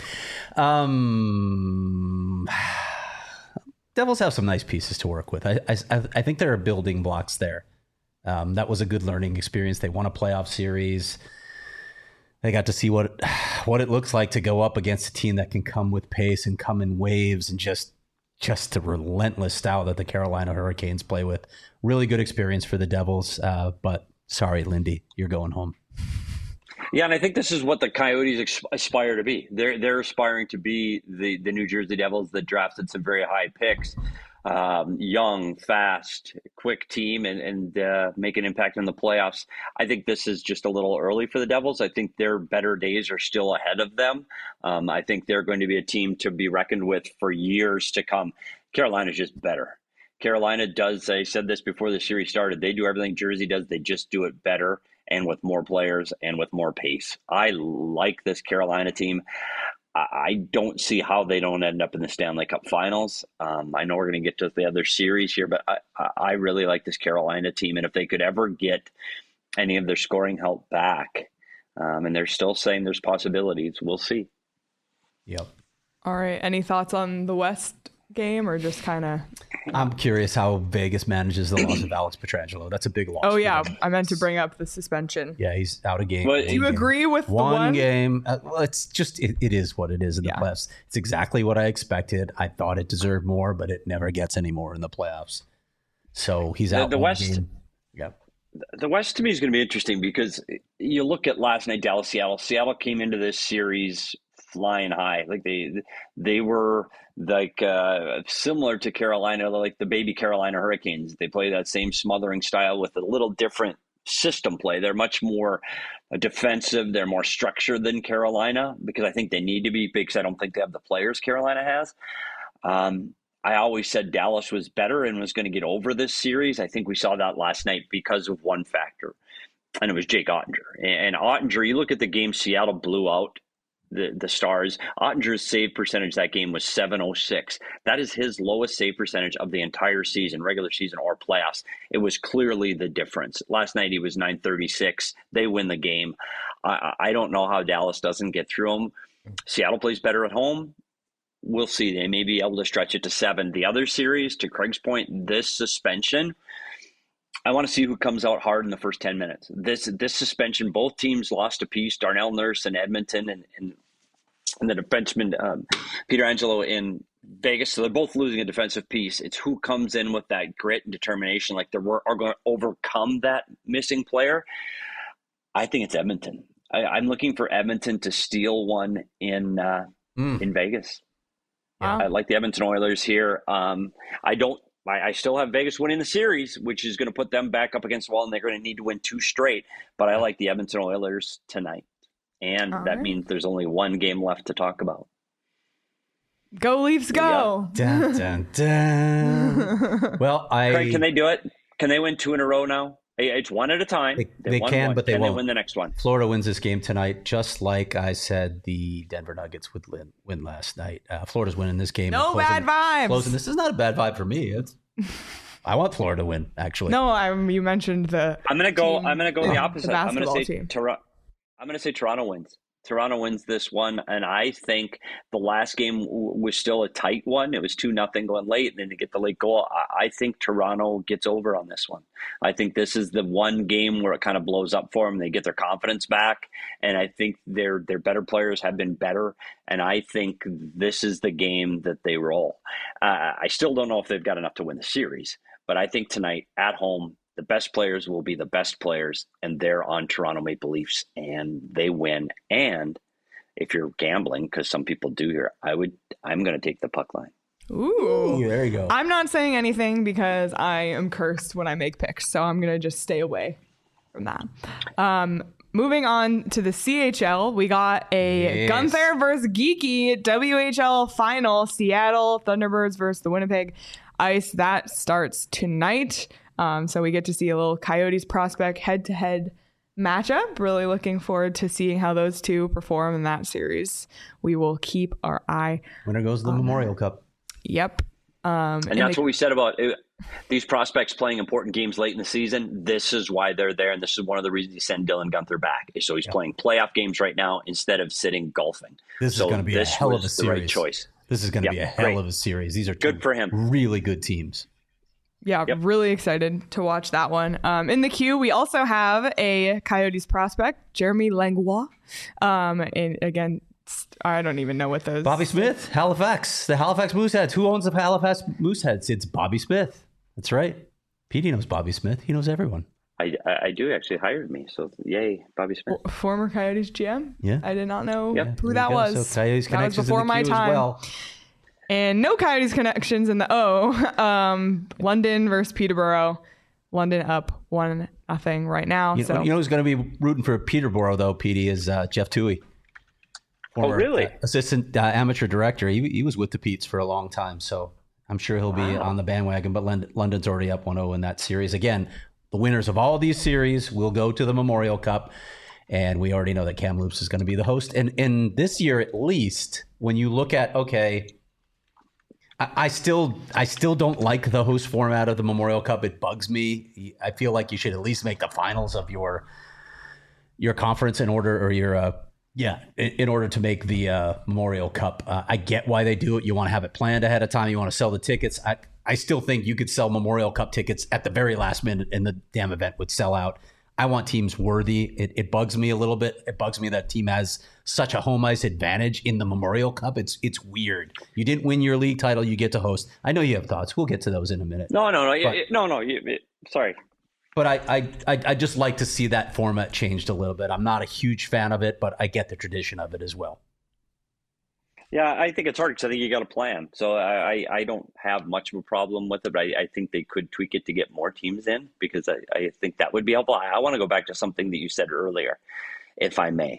[SPEAKER 3] Um, Devils have some nice pieces to work with. I, I, I think there are building blocks there. Um, that was a good learning experience. They won a playoff series. They got to see what what it looks like to go up against a team that can come with pace and come in waves and just just the relentless style that the Carolina Hurricanes play with. Really good experience for the Devils. Uh, but sorry, Lindy, you're going home.
[SPEAKER 2] Yeah, and I think this is what the Coyotes ex- aspire to be. They're they're aspiring to be the, the New Jersey Devils that drafted some very high picks, um, young, fast, quick team, and and uh, make an impact in the playoffs. I think this is just a little early for the Devils. I think their better days are still ahead of them. Um, I think they're going to be a team to be reckoned with for years to come. Carolina's just better. Carolina does. I said this before the series started. They do everything Jersey does. They just do it better, and with more players and with more pace. I like this Carolina team. I don't see how they don't end up in the Stanley Cup Finals. Um, I know we're going to get to the other series here, but I, I really like this Carolina team. And if they could ever get any of their scoring help back, um, and they're still saying there's possibilities, we'll see.
[SPEAKER 3] Yep.
[SPEAKER 1] All right. Any thoughts on the West game or just kind of
[SPEAKER 3] I'm curious how Vegas manages the loss of Alex Pietrangelo. That's a big loss.
[SPEAKER 1] Oh yeah,
[SPEAKER 3] them.
[SPEAKER 1] I meant to bring up the suspension.
[SPEAKER 3] Yeah, he's out of game.
[SPEAKER 2] But,
[SPEAKER 1] do you
[SPEAKER 3] game.
[SPEAKER 1] agree with
[SPEAKER 3] one,
[SPEAKER 1] the one
[SPEAKER 3] game? Uh, well, it's just it, it is what it is in the
[SPEAKER 1] Yeah.
[SPEAKER 3] playoffs. It's exactly what I expected. I thought it deserved more, but it never gets any more in the playoffs. So he's
[SPEAKER 2] The-
[SPEAKER 3] out.
[SPEAKER 2] the
[SPEAKER 3] one
[SPEAKER 2] West-
[SPEAKER 3] game. Yeah.
[SPEAKER 2] The West to me is going to be interesting because you look at last night, Dallas, Seattle. Seattle came into this series flying high. Like they, they were like uh, similar to Carolina, like the baby Carolina Hurricanes. They play that same smothering style with a little different system play. They're much more defensive. They're more structured than Carolina because I think they need to be because I don't think they have the players Carolina has. Um, I always said Dallas was better and was going to get over this series. I think we saw that last night because of one factor, and it was Jake Ottinger. And Ottinger, you look at the game Seattle blew out the, the Stars. Ottinger's save percentage that game was seven oh six. That is his lowest save percentage of the entire season, regular season or playoffs. It was clearly the difference. Last night he was nine thirty-six. They win the game. I, I don't know how Dallas doesn't get through them. Seattle plays better at home. We'll see. They may be able to stretch it to seven. The other series, to Craig's point, this suspension, I want to see who comes out hard in the first ten minutes. This this suspension, both teams lost a piece. Darnell Nurse in Edmonton and, and, and the defenseman um, Pietrangelo in Vegas. So they're both losing a defensive piece. It's who comes in with that grit and determination, like they are going to overcome that missing player. I think it's Edmonton. I, I'm looking for Edmonton to steal one in uh, mm. in Vegas.
[SPEAKER 1] Wow.
[SPEAKER 2] I like the Edmonton Oilers here. Um, I don't. I, I still have Vegas winning the series, which is going to put them back up against the wall, and they're going to need to win two straight. But I like the Edmonton Oilers tonight, and
[SPEAKER 1] All
[SPEAKER 2] that
[SPEAKER 1] right.
[SPEAKER 2] means there's only one game left to talk about.
[SPEAKER 1] Go Leafs, go!
[SPEAKER 3] Dun, dun, dun. Well, I
[SPEAKER 2] Craig, can they do it? Can they win two in a row now? It's one at a time.
[SPEAKER 3] They, they
[SPEAKER 2] won
[SPEAKER 3] can,
[SPEAKER 2] one.
[SPEAKER 3] but they
[SPEAKER 2] can
[SPEAKER 3] won't.
[SPEAKER 2] They win the next one.
[SPEAKER 3] Florida wins this game tonight, just like I said the Denver Nuggets would win, win last night. Uh, Florida's winning this game.
[SPEAKER 1] No
[SPEAKER 3] closing,
[SPEAKER 1] bad vibes.
[SPEAKER 3] Closing. This is not a bad vibe for me. It's, I want Florida to win, actually.
[SPEAKER 1] No, I, you mentioned the.
[SPEAKER 2] I'm gonna go.
[SPEAKER 1] team-
[SPEAKER 2] I'm gonna go the
[SPEAKER 1] the
[SPEAKER 2] opposite. I'm gonna
[SPEAKER 1] basketball
[SPEAKER 2] say
[SPEAKER 1] team.
[SPEAKER 2] Toronto. I'm gonna say Toronto wins. Toronto wins this one, and I think the last game w- was still a tight one. It was two nothing going late, and then to get the late goal, I-, I think Toronto gets over on this one. I think this is the one game where it kind of blows up for them. They get their confidence back, and I think their their better players have been better, and I think this is the game that they roll. Uh, I still don't know if they've got enough to win the series, but I think tonight at home, the best players will be the best players, and they're on Toronto Maple Leafs, and they win. And if you're gambling, because some people do here, I would. I'm going to take the puck line.
[SPEAKER 1] Ooh.
[SPEAKER 3] Ooh, there you go.
[SPEAKER 1] I'm not saying anything because I am cursed when I make picks, so I'm gonna just stay away from that. Um, moving on to the C H L, we got a
[SPEAKER 3] Yes.
[SPEAKER 1] Gunther versus Geeky W H L final. Seattle Thunderbirds versus the Winnipeg Ice. That starts tonight. Um, so we get to see a little Coyotes prospect head-to-head matchup. Really looking forward to seeing how those two perform in that series. We will keep our eye.
[SPEAKER 3] Winner goes to the Memorial Cup.
[SPEAKER 1] Yep. Um,
[SPEAKER 2] And that's
[SPEAKER 1] the-
[SPEAKER 2] what we said about it. These prospects playing important games late in the season. This is why they're there, and this is one of the reasons you send Dylan Gunther back. So he's
[SPEAKER 3] Yeah.
[SPEAKER 2] playing playoff games right now instead of sitting golfing.
[SPEAKER 3] This
[SPEAKER 2] so
[SPEAKER 3] is going to be a
[SPEAKER 2] this
[SPEAKER 3] hell of a
[SPEAKER 2] was the right
[SPEAKER 3] series.
[SPEAKER 2] choice.
[SPEAKER 3] This is going to
[SPEAKER 2] Yep,
[SPEAKER 3] be a hell
[SPEAKER 2] great.
[SPEAKER 3] of a series. These are two
[SPEAKER 2] Good for him.
[SPEAKER 3] really good teams.
[SPEAKER 1] Yeah,
[SPEAKER 2] Yep.
[SPEAKER 1] really excited to watch that one. Um, in the queue, we also have a Coyotes prospect, Jeremy Langlois. Um, and again, st- I don't even know what those.
[SPEAKER 3] Bobby Smith, Halifax, the Halifax Mooseheads. Who owns the Halifax Mooseheads? It's Bobby Smith. That's right. Petey knows Bobby Smith. He knows everyone.
[SPEAKER 2] I, I, I do actually hired me, so yay, Bobby Smith.
[SPEAKER 1] F- Former Coyotes G M.
[SPEAKER 3] Yeah.
[SPEAKER 1] I did not know
[SPEAKER 2] Yep.
[SPEAKER 1] who
[SPEAKER 3] There
[SPEAKER 1] that
[SPEAKER 3] you go.
[SPEAKER 1] was.
[SPEAKER 3] So Coyotes
[SPEAKER 1] that was
[SPEAKER 3] connections
[SPEAKER 1] before
[SPEAKER 3] in the
[SPEAKER 1] my
[SPEAKER 3] queue as
[SPEAKER 1] time.
[SPEAKER 3] well.
[SPEAKER 1] And no Coyotes connections in the O. Um, London versus Peterborough. London up one nothing right now.
[SPEAKER 3] You,
[SPEAKER 1] so
[SPEAKER 3] you know who's going to be rooting for Peterborough, though, Petey, is uh, Jeff Toohey.
[SPEAKER 2] Oh, really?
[SPEAKER 3] uh, assistant uh, amateur director. He, he was with the Petes for a long time, so I'm sure he'll be
[SPEAKER 2] Wow.
[SPEAKER 3] on the bandwagon. But London, London's already up one oh in that series. Again, the winners of all these series will go to the Memorial Cup, and we already know that Kamloops is going to be the host. And, and this year, at least, when you look at, okay, I, I still I still don't like the host format of the Memorial Cup. It bugs me. I feel like you should at least make the finals of your your conference in order, or your uh, yeah, in, in order to make the uh, Memorial Cup. Uh, I get why they do it. You want to have it planned ahead of time. You want to sell the tickets. I I still think you could sell Memorial Cup tickets at the very last minute and the damn event would sell out. I want teams worthy. It, it bugs me a little bit. It bugs me that team has such a home ice advantage in the Memorial Cup. It's it's weird. You didn't win your league title. You get to host. I know you have thoughts. We'll get to those in a minute.
[SPEAKER 2] No, no, no.
[SPEAKER 3] But,
[SPEAKER 2] it, no, no. You, it, sorry.
[SPEAKER 3] But I, I, I, I just like to see that format changed a little bit. I'm not a huge fan of it, but I get the tradition of it as well.
[SPEAKER 2] Yeah, I think it's hard because I think you got a plan. So I, I, I don't have much of a problem with it, but I, I think they could tweak it to get more teams in because I, I think that would be helpful. I, I want to go back to something that you said earlier, if I may.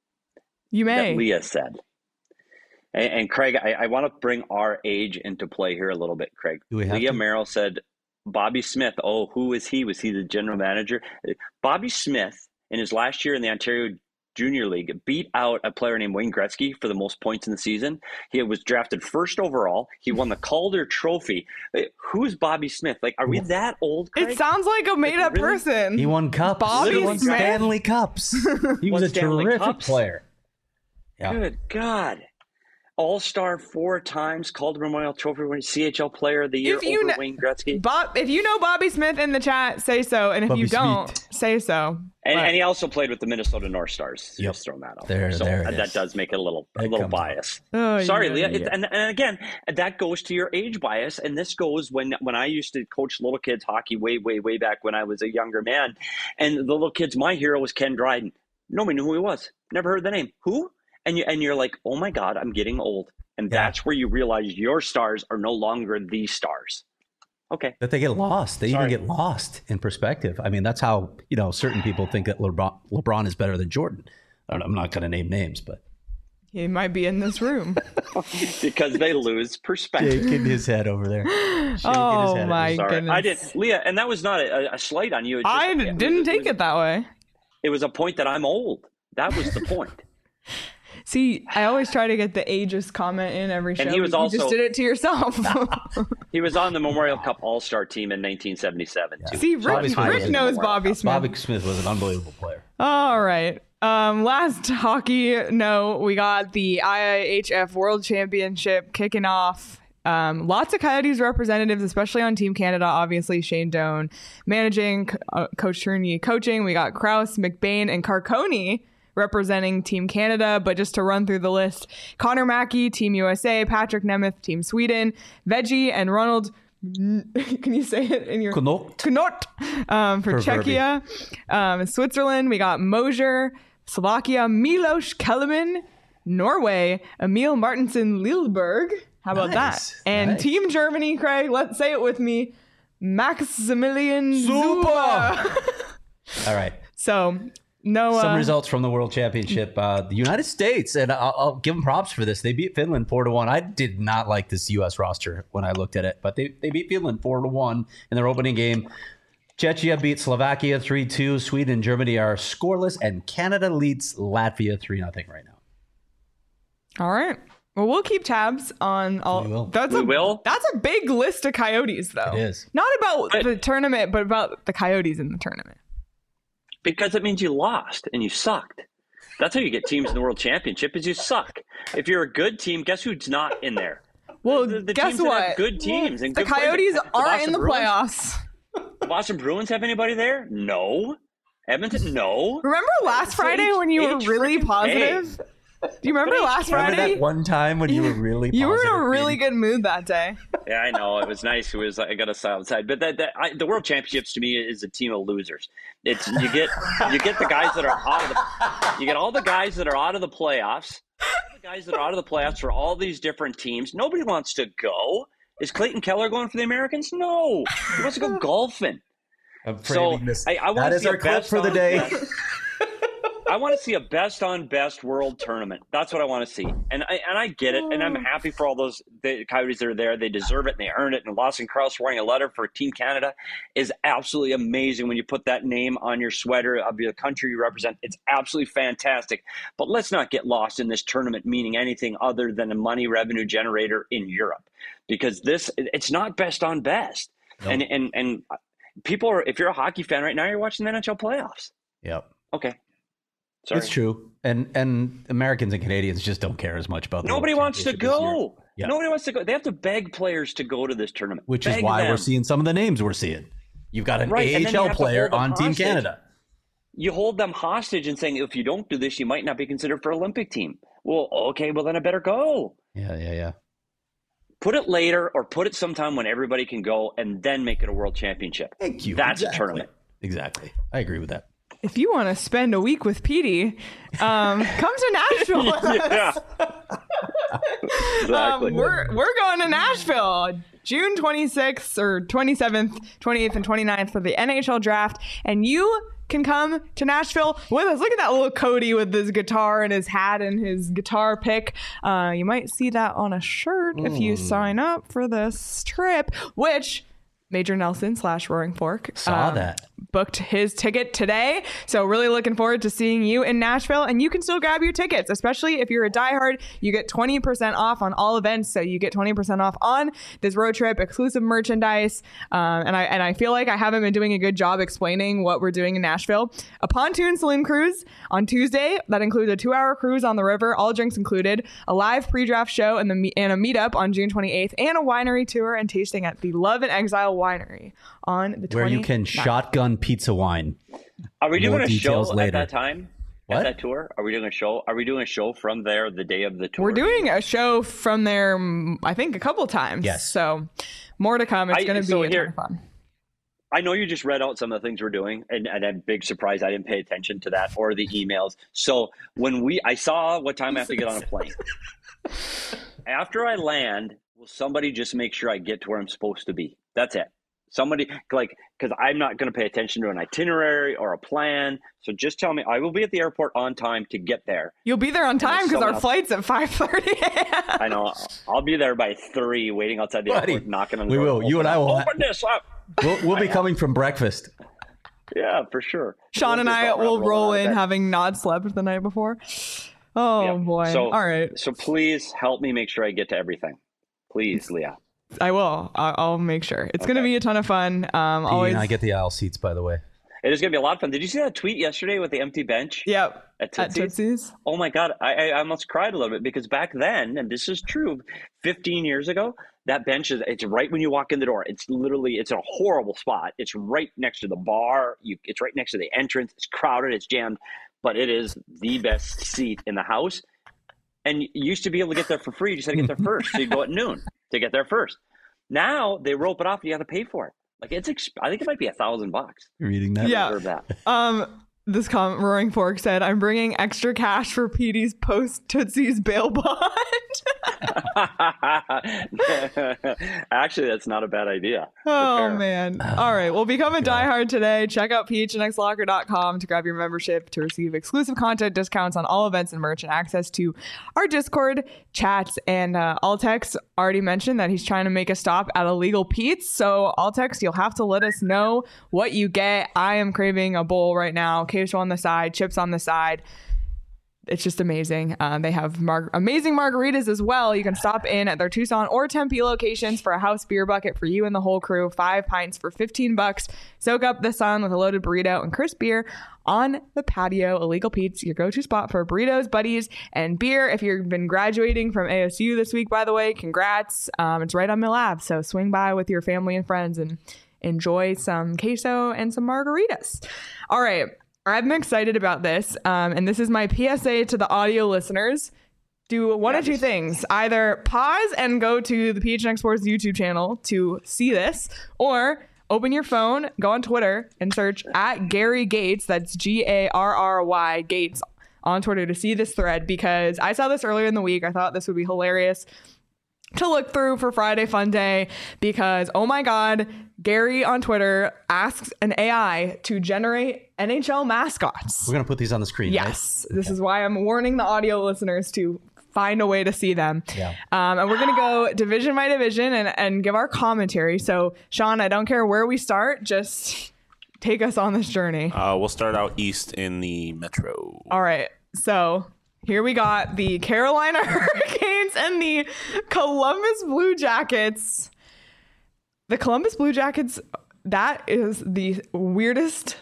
[SPEAKER 1] You may.
[SPEAKER 2] That Leah said. And, and Craig, I, I want to bring our age into play here a little bit, Craig.
[SPEAKER 3] Do we have
[SPEAKER 2] Leah
[SPEAKER 3] to?
[SPEAKER 2] Merrill said, Bobby Smith, oh, who was he? Was he the general manager? Bobby Smith, in his last year in the Ontario Junior League, beat out a player named Wayne Gretzky for the most points in the season. He was drafted first overall. He won the Calder Trophy. Who's Bobby Smith? Like, are we that old, Craig?
[SPEAKER 1] It sounds like a made-up
[SPEAKER 2] Like, really?
[SPEAKER 1] person.
[SPEAKER 3] He won cups.
[SPEAKER 1] Bobby
[SPEAKER 3] he won
[SPEAKER 1] Smith?
[SPEAKER 3] Stanley Cups. He was
[SPEAKER 2] Won
[SPEAKER 3] a
[SPEAKER 2] Stanley
[SPEAKER 3] terrific
[SPEAKER 2] Cups?
[SPEAKER 3] player. Yeah.
[SPEAKER 2] Good God. All-Star four times, Calder Memorial Trophy winner, C H L Player of the Year
[SPEAKER 1] If you
[SPEAKER 2] over
[SPEAKER 1] kn-
[SPEAKER 2] Wayne Gretzky.
[SPEAKER 1] Bob, if you know Bobby Smith in the chat, say so. And if
[SPEAKER 3] Bobby
[SPEAKER 1] you don't,
[SPEAKER 3] Smith.
[SPEAKER 1] say so.
[SPEAKER 2] And,
[SPEAKER 1] But-
[SPEAKER 2] and he also played with the Minnesota North Stars.
[SPEAKER 3] Yep.
[SPEAKER 2] Just throwing that out
[SPEAKER 3] There-
[SPEAKER 2] So
[SPEAKER 3] there it
[SPEAKER 2] that
[SPEAKER 3] is.
[SPEAKER 2] does make it a little a
[SPEAKER 3] That
[SPEAKER 2] little
[SPEAKER 3] comes out.
[SPEAKER 2] bias.
[SPEAKER 1] Oh,
[SPEAKER 2] Sorry,
[SPEAKER 1] yeah,
[SPEAKER 2] Leah. It-
[SPEAKER 1] yeah.
[SPEAKER 2] and, and again, that goes to your age bias. And this goes when when I used to coach little kids hockey way, way, way back when I was a younger man. And the little kids, my hero was Ken Dryden. Nobody knew who he was. Never heard the name. Who? And you and you're like, oh my God, I'm getting old. And
[SPEAKER 3] Yeah.
[SPEAKER 2] that's where you realize your stars are no longer the stars. Okay.
[SPEAKER 3] That they get lost. They
[SPEAKER 2] Sorry.
[SPEAKER 3] even get lost in perspective. I mean, that's how, you know, certain people think that LeBron, LeBron is better than Jordan. I don't know, I'm not going to name names, but
[SPEAKER 1] He might be in this room.
[SPEAKER 2] Because they lose perspective.
[SPEAKER 3] shaking his head over there. Shaking his
[SPEAKER 1] Oh,
[SPEAKER 3] head.
[SPEAKER 1] my
[SPEAKER 2] Sorry.
[SPEAKER 1] goodness.
[SPEAKER 2] I did, Leah, and that was not a, a slight on you. It's just-
[SPEAKER 1] I
[SPEAKER 2] it was-
[SPEAKER 1] didn't
[SPEAKER 2] it
[SPEAKER 1] take
[SPEAKER 2] was-
[SPEAKER 1] it that way.
[SPEAKER 2] It was a point that I'm old. That was the point.
[SPEAKER 1] See, I always try to get the ageist comment in every show.
[SPEAKER 2] And he was
[SPEAKER 1] but you
[SPEAKER 2] also-
[SPEAKER 1] just did it to yourself.
[SPEAKER 2] He was on the Memorial Cup All-Star team in nineteen seventy-seven, too.
[SPEAKER 1] See,
[SPEAKER 3] Bobby
[SPEAKER 1] Rick,
[SPEAKER 3] Smith
[SPEAKER 1] Rick
[SPEAKER 3] was-
[SPEAKER 1] knows Bobby Smith.
[SPEAKER 3] Bobby Smith was an unbelievable player.
[SPEAKER 1] All right. Um, last hockey note, we got the I I H F World Championship kicking off. Um, lots of Coyotes representatives, especially on Team Canada. Obviously, Shane Doan managing, uh, Coach Tourney coaching. We got Krause, McBain, and Carconi representing Team Canada. But just to run through the list, Connor Mackey, Team U S A, Patrick Nemeth, Team Sweden, Veggie and Ronald. Can you say it in your
[SPEAKER 3] Knott.
[SPEAKER 1] Knott, um, for
[SPEAKER 3] For
[SPEAKER 1] Czechia, um, Switzerland? We got Mosier, Slovakia, Milos Kellerman, Norway, Emil Martinson Lilleberg. How about
[SPEAKER 3] Nice,
[SPEAKER 1] that? And
[SPEAKER 3] nice.
[SPEAKER 1] Team Germany, Craig. Let's say it with me, Maximilian Zuba.
[SPEAKER 3] All right.
[SPEAKER 1] So no
[SPEAKER 3] Some
[SPEAKER 1] uh,
[SPEAKER 3] results from the World Championship. Uh, the United States, and I'll, I'll give them props for this. They beat Finland four to one. I did not like this U S roster when I looked at it, but they, they beat Finland four to one in their opening game. Czechia beat Slovakia three two. Sweden and Germany are scoreless, and Canada leads Latvia three nothing right now.
[SPEAKER 1] All right. Well, we'll keep tabs on all.
[SPEAKER 3] We will.
[SPEAKER 1] That's
[SPEAKER 2] We
[SPEAKER 1] a,
[SPEAKER 2] will?
[SPEAKER 1] That's a big list of Coyotes, though.
[SPEAKER 3] It is.
[SPEAKER 1] Not about
[SPEAKER 2] But-
[SPEAKER 1] the tournament, but about the Coyotes in the tournament.
[SPEAKER 2] Because it means you lost and you sucked. That's how you get teams in the World Championship is you suck. If you're a good team, guess who's not in there?
[SPEAKER 1] Well,
[SPEAKER 2] The- the
[SPEAKER 1] guess
[SPEAKER 2] teams that have
[SPEAKER 1] what?
[SPEAKER 2] good teams and
[SPEAKER 1] the
[SPEAKER 2] good players.
[SPEAKER 1] Coyotes
[SPEAKER 2] The
[SPEAKER 1] aren't
[SPEAKER 2] Boston
[SPEAKER 1] in the
[SPEAKER 2] Bruins?
[SPEAKER 1] playoffs.
[SPEAKER 2] The Boston Bruins have anybody there? No. Edmonton? No.
[SPEAKER 1] Remember last Friday when you were
[SPEAKER 2] H
[SPEAKER 1] really
[SPEAKER 2] freaking
[SPEAKER 1] positive? Do you remember
[SPEAKER 2] But
[SPEAKER 1] last
[SPEAKER 3] Remember
[SPEAKER 1] Friday?
[SPEAKER 3] that one time when you were really
[SPEAKER 1] You were in a
[SPEAKER 3] positive,
[SPEAKER 1] really
[SPEAKER 3] Katie?
[SPEAKER 1] good mood that day.
[SPEAKER 2] Yeah, I know. It was nice. It was. I got a silent side, but that, that I, the World Championships to me is a team of losers. It's you get you get the guys that are out of the you get all the guys that are out of the playoffs. All the guys that are out of the playoffs for all these different teams. Nobody wants to go. Is Clayton Keller going for the Americans? No, he wants to go golfing.
[SPEAKER 3] I'm
[SPEAKER 2] So
[SPEAKER 3] framing this.
[SPEAKER 2] I, I want
[SPEAKER 3] That
[SPEAKER 2] to
[SPEAKER 3] is
[SPEAKER 2] see
[SPEAKER 3] our
[SPEAKER 2] a
[SPEAKER 3] clip
[SPEAKER 2] best
[SPEAKER 3] for the
[SPEAKER 2] on
[SPEAKER 3] day.
[SPEAKER 2] best. I want to see a best on best world tournament. That's what I want to see, and I and I get it, and I'm happy for all those the Coyotes that are there. They deserve it, and they earn it. And Lawson Krause writing a letter for Team Canada is absolutely amazing. When you put that name on your sweater of the country you represent, it's absolutely fantastic. But let's not get lost in this tournament meaning anything other than a money revenue generator in Europe, because this it's not best on best,
[SPEAKER 3] Nope.
[SPEAKER 2] and and and people are. If you're a hockey fan right now, you're watching the N H L playoffs.
[SPEAKER 3] Yep.
[SPEAKER 2] Okay. Sorry.
[SPEAKER 3] It's true. And and Americans and Canadians just don't care as much about the
[SPEAKER 2] Nobody
[SPEAKER 3] World
[SPEAKER 2] wants to
[SPEAKER 3] Championship this year.
[SPEAKER 2] go.
[SPEAKER 3] Yeah.
[SPEAKER 2] Nobody wants to go. They have to beg players to go to this tournament.
[SPEAKER 3] Which
[SPEAKER 2] beg
[SPEAKER 3] is why
[SPEAKER 2] them.
[SPEAKER 3] we're seeing some of the names we're seeing. You've got an
[SPEAKER 2] Right,
[SPEAKER 3] A
[SPEAKER 2] and
[SPEAKER 3] H
[SPEAKER 2] then you
[SPEAKER 3] L
[SPEAKER 2] have to
[SPEAKER 3] player
[SPEAKER 2] hold them
[SPEAKER 3] on Team
[SPEAKER 2] hostage.
[SPEAKER 3] Canada.
[SPEAKER 2] You hold them hostage and saying, if you don't do this, you might not be considered for Olympic team. Well, okay, well then I better go.
[SPEAKER 3] Yeah, yeah, yeah.
[SPEAKER 2] Put it later or put it sometime when everybody can go and then make it a world championship.
[SPEAKER 3] Thank you.
[SPEAKER 2] That's
[SPEAKER 3] exactly.
[SPEAKER 2] a tournament.
[SPEAKER 3] Exactly. I agree with that.
[SPEAKER 1] If you want to spend a week with Petey, um, come to Nashville with us.
[SPEAKER 2] Yeah. Exactly.
[SPEAKER 1] Um, we're we're going to Nashville June twenty-sixth or twenty-seventh, twenty-eighth, and twenty-ninth for the N H L draft, and you can come to Nashville with us. Look at that little Cody with his guitar and his hat and his guitar pick. Uh, you might see that on a shirt mm. if you sign up for this trip, which Major Nelson slash Roaring Fork
[SPEAKER 3] saw
[SPEAKER 1] um,
[SPEAKER 3] that.
[SPEAKER 1] booked his ticket today. So really looking forward to seeing you in Nashville, and you can still grab your tickets, especially if you're a diehard. You get twenty percent off on all events. So you get twenty percent off on this road trip, exclusive merchandise. Um, and I and I feel like I haven't been doing a good job explaining what we're doing in Nashville. A pontoon saloon cruise on Tuesday that includes a two-hour cruise on the river, all drinks included, a live pre-draft show and the and a meetup on June twenty-eighth, and a winery tour and tasting at the Love and Exile Winery on the twenty-ninth.
[SPEAKER 3] Where you can shotgun pizza wine.
[SPEAKER 2] Are we doing
[SPEAKER 3] More
[SPEAKER 2] a show
[SPEAKER 3] later.
[SPEAKER 2] at that time?
[SPEAKER 3] What?
[SPEAKER 2] At that tour? Are we doing a show? Are we doing a show from there the day of the tour?
[SPEAKER 1] We're doing a show from there, mm, I think, a couple times.
[SPEAKER 3] Yes.
[SPEAKER 1] So more to come. It's
[SPEAKER 2] I-
[SPEAKER 1] going to
[SPEAKER 2] so
[SPEAKER 1] be a
[SPEAKER 2] here-
[SPEAKER 1] ton of fun.
[SPEAKER 2] I know you just read out some of the things we're doing, and, and I'm big surprised I didn't pay attention to that or the emails. So when we, I saw what time I have to get on a plane. After I land, will somebody just make sure I get to where I'm supposed to be? That's it. Somebody, like, because I'm not going to pay attention to an itinerary or a plan. So just tell me, I will be at the airport on time to get there.
[SPEAKER 1] You'll be there on time because our
[SPEAKER 2] someone else-
[SPEAKER 1] flight's at five thirty.
[SPEAKER 2] I know. I'll be there by three, waiting outside the
[SPEAKER 3] Buddy,
[SPEAKER 2] airport, knocking on the
[SPEAKER 3] we
[SPEAKER 2] door.
[SPEAKER 3] will. You and I will ha-
[SPEAKER 2] Open this up.
[SPEAKER 3] We'll, we'll be coming from breakfast.
[SPEAKER 2] Yeah, for sure.
[SPEAKER 1] Sean and I will roll in
[SPEAKER 2] Have.
[SPEAKER 1] having not slept the night before. Oh,
[SPEAKER 2] Yeah.
[SPEAKER 1] boy.
[SPEAKER 2] So-
[SPEAKER 1] All right.
[SPEAKER 2] So please help me make sure I get to everything. Please, Leah.
[SPEAKER 1] I will. I- I'll make sure. It's going to
[SPEAKER 2] Okay.
[SPEAKER 1] be a ton of fun. Um,
[SPEAKER 3] P
[SPEAKER 1] always.
[SPEAKER 3] and I get the aisle seats, by the way.
[SPEAKER 2] It is going to be a lot of fun. Did you see that tweet yesterday with the empty bench?
[SPEAKER 1] Yep.
[SPEAKER 2] At
[SPEAKER 1] At
[SPEAKER 2] Tootsie's?
[SPEAKER 1] Tootsie's.
[SPEAKER 2] Oh my God, I, I almost cried a little bit because back then, and this is true, fifteen years ago, that bench is, it's right when you walk in the door. It's literally, it's in a horrible spot. It's right next to the bar. You, it's right next to the entrance. It's crowded, it's jammed, but it is the best seat in the house. And you used to be able to get there for free. You just had to get there first. So you go at noon to get there first. Now they rope it off and you have to pay for it. Like it's, exp- I think it might be a thousand bucks.
[SPEAKER 3] You're reading that?
[SPEAKER 1] Yeah.
[SPEAKER 2] Reserve that.
[SPEAKER 1] Um, this comment, Roaring Fork said, I'm bringing extra cash for P D's post Tootsie's bail bond.
[SPEAKER 2] Actually, that's not a bad idea.
[SPEAKER 1] Oh,
[SPEAKER 2] Prepare.
[SPEAKER 1] man. All right. Well, become a diehard today. Check out p h n x locker dot com to grab your membership to receive exclusive content, discounts on all events and merch, and access to our Discord chats. And uh, Altex already mentioned that he's trying to make a stop at Illegal Pete's. So, Altex, you'll have to let us know what you get. I am craving a bowl right now. Queso on the side, chips on the side. It's just amazing. Um, they have mar- amazing margaritas as well. You can stop in at their Tucson or Tempe locations for a house beer bucket for you and the whole crew. Five pints for fifteen bucks. Soak up the sun with a loaded burrito and crisp beer on the patio. Illegal Pete's, your go-to spot for burritos, buddies, and beer. If you've been graduating from A S U this week, by the way, congrats. Um, it's right on Mill Ave, so swing by with your family and friends and enjoy some queso and some margaritas. All right. I'm excited about this, um, and this is my P S A to the audio listeners. Do one of two things. Either pause and go to the P H N X Sports YouTube channel to see this, or open your phone, go on Twitter, and search at Gary Gates, that's G A R R Y Gates, on Twitter to see this thread, because I saw this earlier in the week. I thought this would be hilarious to look through for Friday Fun Day, because, oh my God, Gary on Twitter asks an A I to generate N H L mascots.
[SPEAKER 3] We're going to put these on the screen,
[SPEAKER 1] Yes.
[SPEAKER 3] right?
[SPEAKER 1] This is why I'm warning the audio listeners to find a way to see them.
[SPEAKER 3] Yeah.
[SPEAKER 1] Um, and we're going to go division by division and, and give our commentary. So, Sean, I don't care where we start. Just take us on this journey.
[SPEAKER 4] Uh, we'll start out east in the Metro.
[SPEAKER 1] All right. So here we got the Carolina Hurricanes and the Columbus Blue Jackets. The Columbus Blue Jackets, that is the weirdest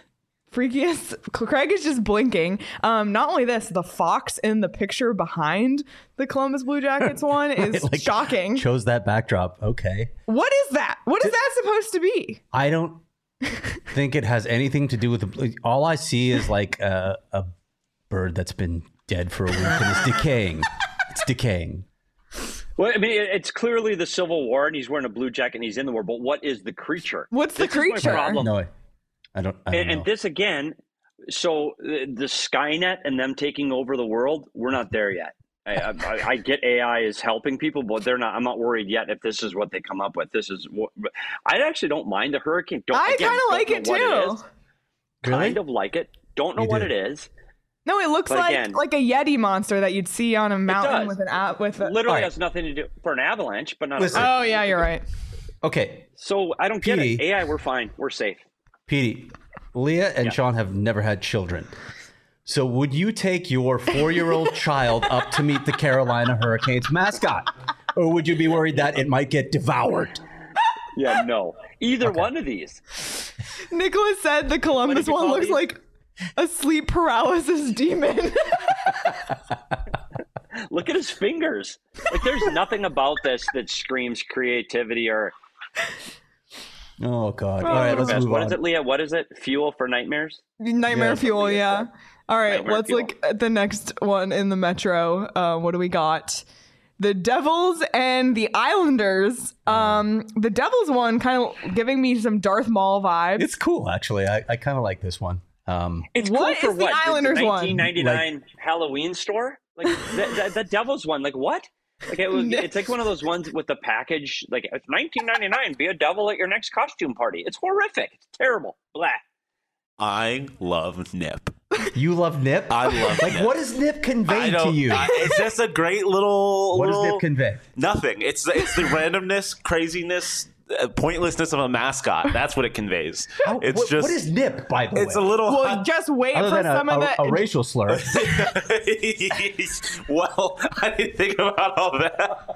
[SPEAKER 1] freakiest. Craig is just blinking. Um, not only this, the fox in the picture behind the Columbus Blue Jackets one is
[SPEAKER 3] Like,
[SPEAKER 1] shocking.
[SPEAKER 3] Chose that backdrop. Okay.
[SPEAKER 1] What is that? What is that supposed to be?
[SPEAKER 3] I don't think it has anything to do with the. All I see is like a, a bird that's been dead for a week and it's decaying. It's decaying.
[SPEAKER 2] Well, I mean, it- it's clearly the Civil War, and he's wearing a blue jacket, and he's in the war. But what is the creature?
[SPEAKER 1] What's the
[SPEAKER 2] This is my
[SPEAKER 1] creature?
[SPEAKER 2] problem.
[SPEAKER 3] No, I, I don't. I don't
[SPEAKER 2] And,
[SPEAKER 3] know.
[SPEAKER 2] and this again, so the, the Skynet and them taking over the world, we're not there yet. I, I, I get A I is helping people, but they're not. I'm not worried yet if this is what they come up with. This is what I actually don't mind the hurricane. Don't,
[SPEAKER 1] I
[SPEAKER 2] again,
[SPEAKER 1] kind of
[SPEAKER 2] don't
[SPEAKER 1] like
[SPEAKER 2] know
[SPEAKER 1] it
[SPEAKER 2] what
[SPEAKER 1] too.
[SPEAKER 2] is.
[SPEAKER 3] Really?
[SPEAKER 2] Kind of like it. Don't know
[SPEAKER 3] You
[SPEAKER 2] what
[SPEAKER 3] do.
[SPEAKER 2] it is.
[SPEAKER 1] No, it looks
[SPEAKER 2] But
[SPEAKER 1] like
[SPEAKER 2] again-
[SPEAKER 1] like a Yeti monster that you'd see on a mountain
[SPEAKER 2] does.
[SPEAKER 1] with an app with a.
[SPEAKER 2] Literally
[SPEAKER 3] Alright.
[SPEAKER 2] has nothing to do for an avalanche, but not.
[SPEAKER 3] Listen.
[SPEAKER 2] A,
[SPEAKER 1] Oh yeah, you're right.
[SPEAKER 3] Okay,
[SPEAKER 2] so I don't get it.
[SPEAKER 3] Petey.
[SPEAKER 2] A I, we're fine. We're safe.
[SPEAKER 3] Petey, Leah and
[SPEAKER 2] Yeah.
[SPEAKER 3] Sean have never had children. So would you take your four-year-old child up to meet the Carolina Hurricanes mascot? Or would you be worried that it might get devoured?
[SPEAKER 2] Yeah, no. Either one of these.
[SPEAKER 1] Nicholas said the Columbus
[SPEAKER 2] you
[SPEAKER 1] one
[SPEAKER 2] call
[SPEAKER 1] looks
[SPEAKER 2] these?
[SPEAKER 1] like a sleep paralysis demon.
[SPEAKER 2] Look at his fingers. Like, there's nothing about this that screams creativity or
[SPEAKER 3] Oh God! All right, let's
[SPEAKER 2] best.
[SPEAKER 3] move
[SPEAKER 2] What
[SPEAKER 3] on.
[SPEAKER 2] is it, Leah? What is it? Fuel for nightmares?
[SPEAKER 1] Nightmare
[SPEAKER 3] Yeah.
[SPEAKER 1] fuel, yeah. All right,
[SPEAKER 2] Nightmare
[SPEAKER 1] let's
[SPEAKER 2] fuel.
[SPEAKER 1] look at the next one in the Metro. Uh, what do we got? The Devils and the Islanders. Um, the Devils one kind of giving me some Darth Maul vibes.
[SPEAKER 3] It's cool, actually. I, I kind of like this one. Um,
[SPEAKER 2] It's
[SPEAKER 1] What
[SPEAKER 2] cool for
[SPEAKER 1] is the
[SPEAKER 2] what?
[SPEAKER 1] Islanders one?
[SPEAKER 2] nineteen ninety-nine Halloween store? Like the, the, the Devils one? Like what? Like it was, it's like one of those ones with the package. Like it's nineteen ninety-nine. Be a devil at your next costume party. It's horrific. It's terrible. Blah.
[SPEAKER 4] I love Nip.
[SPEAKER 3] you love Nip?
[SPEAKER 4] I love
[SPEAKER 3] like,
[SPEAKER 4] Nip.
[SPEAKER 3] what does Nip
[SPEAKER 4] I
[SPEAKER 3] convey to
[SPEAKER 4] don't.
[SPEAKER 3] you?
[SPEAKER 4] I- it's just a great little.
[SPEAKER 3] what does
[SPEAKER 4] little,
[SPEAKER 3] Nip convey?
[SPEAKER 4] Nothing. It's it's the randomness, craziness, uh, pointlessness of a mascot. That's what it conveys.
[SPEAKER 3] How-
[SPEAKER 4] It's
[SPEAKER 3] what,
[SPEAKER 4] just.
[SPEAKER 3] what is Nip, by the
[SPEAKER 4] It's
[SPEAKER 3] way?
[SPEAKER 4] a little.
[SPEAKER 1] well, just wait
[SPEAKER 3] Other
[SPEAKER 1] for
[SPEAKER 3] than a,
[SPEAKER 1] some of
[SPEAKER 3] a,
[SPEAKER 1] the.
[SPEAKER 3] a racial slur.
[SPEAKER 4] well, I didn't think about all that.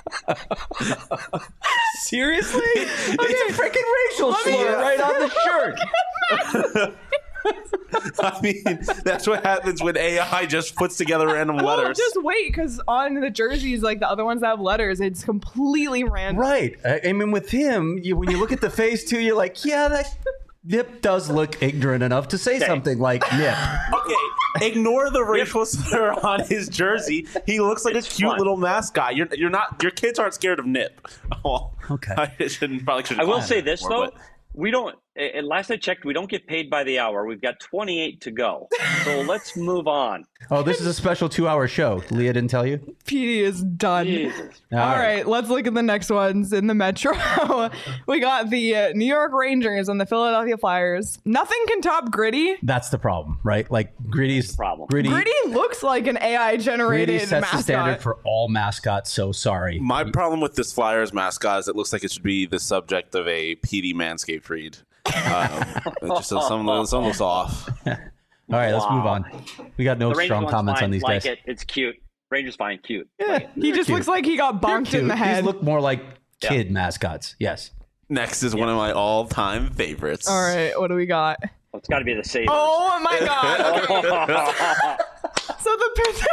[SPEAKER 3] Seriously? It's a freaking racial
[SPEAKER 1] Let me-
[SPEAKER 3] slur right on the shirt.
[SPEAKER 4] I mean, that's what happens when A I just puts together random
[SPEAKER 1] well,
[SPEAKER 4] letters.
[SPEAKER 1] just wait, because on the jerseys, like the other ones that have letters, it's completely random.
[SPEAKER 3] Right. I, I mean, with him, you, when you look at the face too, you're like, yeah, that Nip does look ignorant enough to say something like Nip.
[SPEAKER 4] Okay, ignore the racial slur on his jersey. He looks like
[SPEAKER 2] It's
[SPEAKER 4] a cute
[SPEAKER 2] fun.
[SPEAKER 4] little mascot. You're you're not. Your kids aren't scared of Nip. Well,
[SPEAKER 3] Okay.
[SPEAKER 4] I shouldn't probably shouldn't.
[SPEAKER 2] I will
[SPEAKER 4] call
[SPEAKER 2] say
[SPEAKER 4] him
[SPEAKER 2] this
[SPEAKER 4] anymore,
[SPEAKER 2] though.
[SPEAKER 4] but-
[SPEAKER 2] We don't. And last I checked, we don't get paid by the hour. We've got twenty-eight to go. So let's move on.
[SPEAKER 3] Oh, this is a special two-hour show. Leah didn't tell you?
[SPEAKER 1] P D is done.
[SPEAKER 2] Jesus.
[SPEAKER 1] All right, let's look at the next ones in the Metro. We got the uh, New York Rangers and the Philadelphia Flyers. Nothing can top Gritty.
[SPEAKER 3] That's the problem, right? Like Gritty's
[SPEAKER 2] problem.
[SPEAKER 3] Gritty.
[SPEAKER 1] Gritty looks like an A I generated
[SPEAKER 3] Gritty sets
[SPEAKER 1] mascot.
[SPEAKER 3] the standard for all mascots. So sorry.
[SPEAKER 4] My problem with this Flyers mascot is it looks like it should be the subject of a P D Manscaped read. Um, it just some some looks off.
[SPEAKER 3] All right, let's move
[SPEAKER 2] Wow.
[SPEAKER 3] on. We got no
[SPEAKER 2] The Rangers
[SPEAKER 3] strong
[SPEAKER 2] one's
[SPEAKER 3] comments
[SPEAKER 2] fine.
[SPEAKER 3] on these
[SPEAKER 2] like
[SPEAKER 3] guys.
[SPEAKER 2] it. It's cute. Rangers fine. Cute.
[SPEAKER 3] Yeah,
[SPEAKER 1] He just
[SPEAKER 3] cute.
[SPEAKER 1] looks like he got
[SPEAKER 3] They're
[SPEAKER 1] bonked in the
[SPEAKER 3] cute.
[SPEAKER 1] head.
[SPEAKER 3] These look more like
[SPEAKER 2] Yeah.
[SPEAKER 3] kid mascots. Yes.
[SPEAKER 4] Next is one of my all-time favorites.
[SPEAKER 1] All right, what do we got?
[SPEAKER 2] Well, it's got to be the Sabres.
[SPEAKER 1] Oh my god. Okay. So the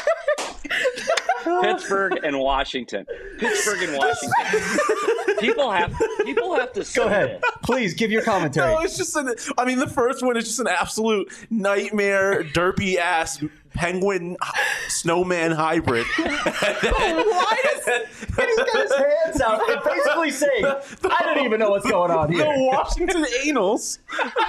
[SPEAKER 2] Pittsburgh and Washington. Pittsburgh and Washington. people have people have to say
[SPEAKER 3] Go ahead.
[SPEAKER 2] this.
[SPEAKER 3] Please give your commentary.
[SPEAKER 4] No, it's just an. I mean, the first one is just an absolute nightmare, derpy ass penguin snowman hybrid.
[SPEAKER 1] Why does
[SPEAKER 3] He's got his hands out and basically saying, I don't even know what's going on
[SPEAKER 4] The
[SPEAKER 3] here.
[SPEAKER 4] Washington Anals.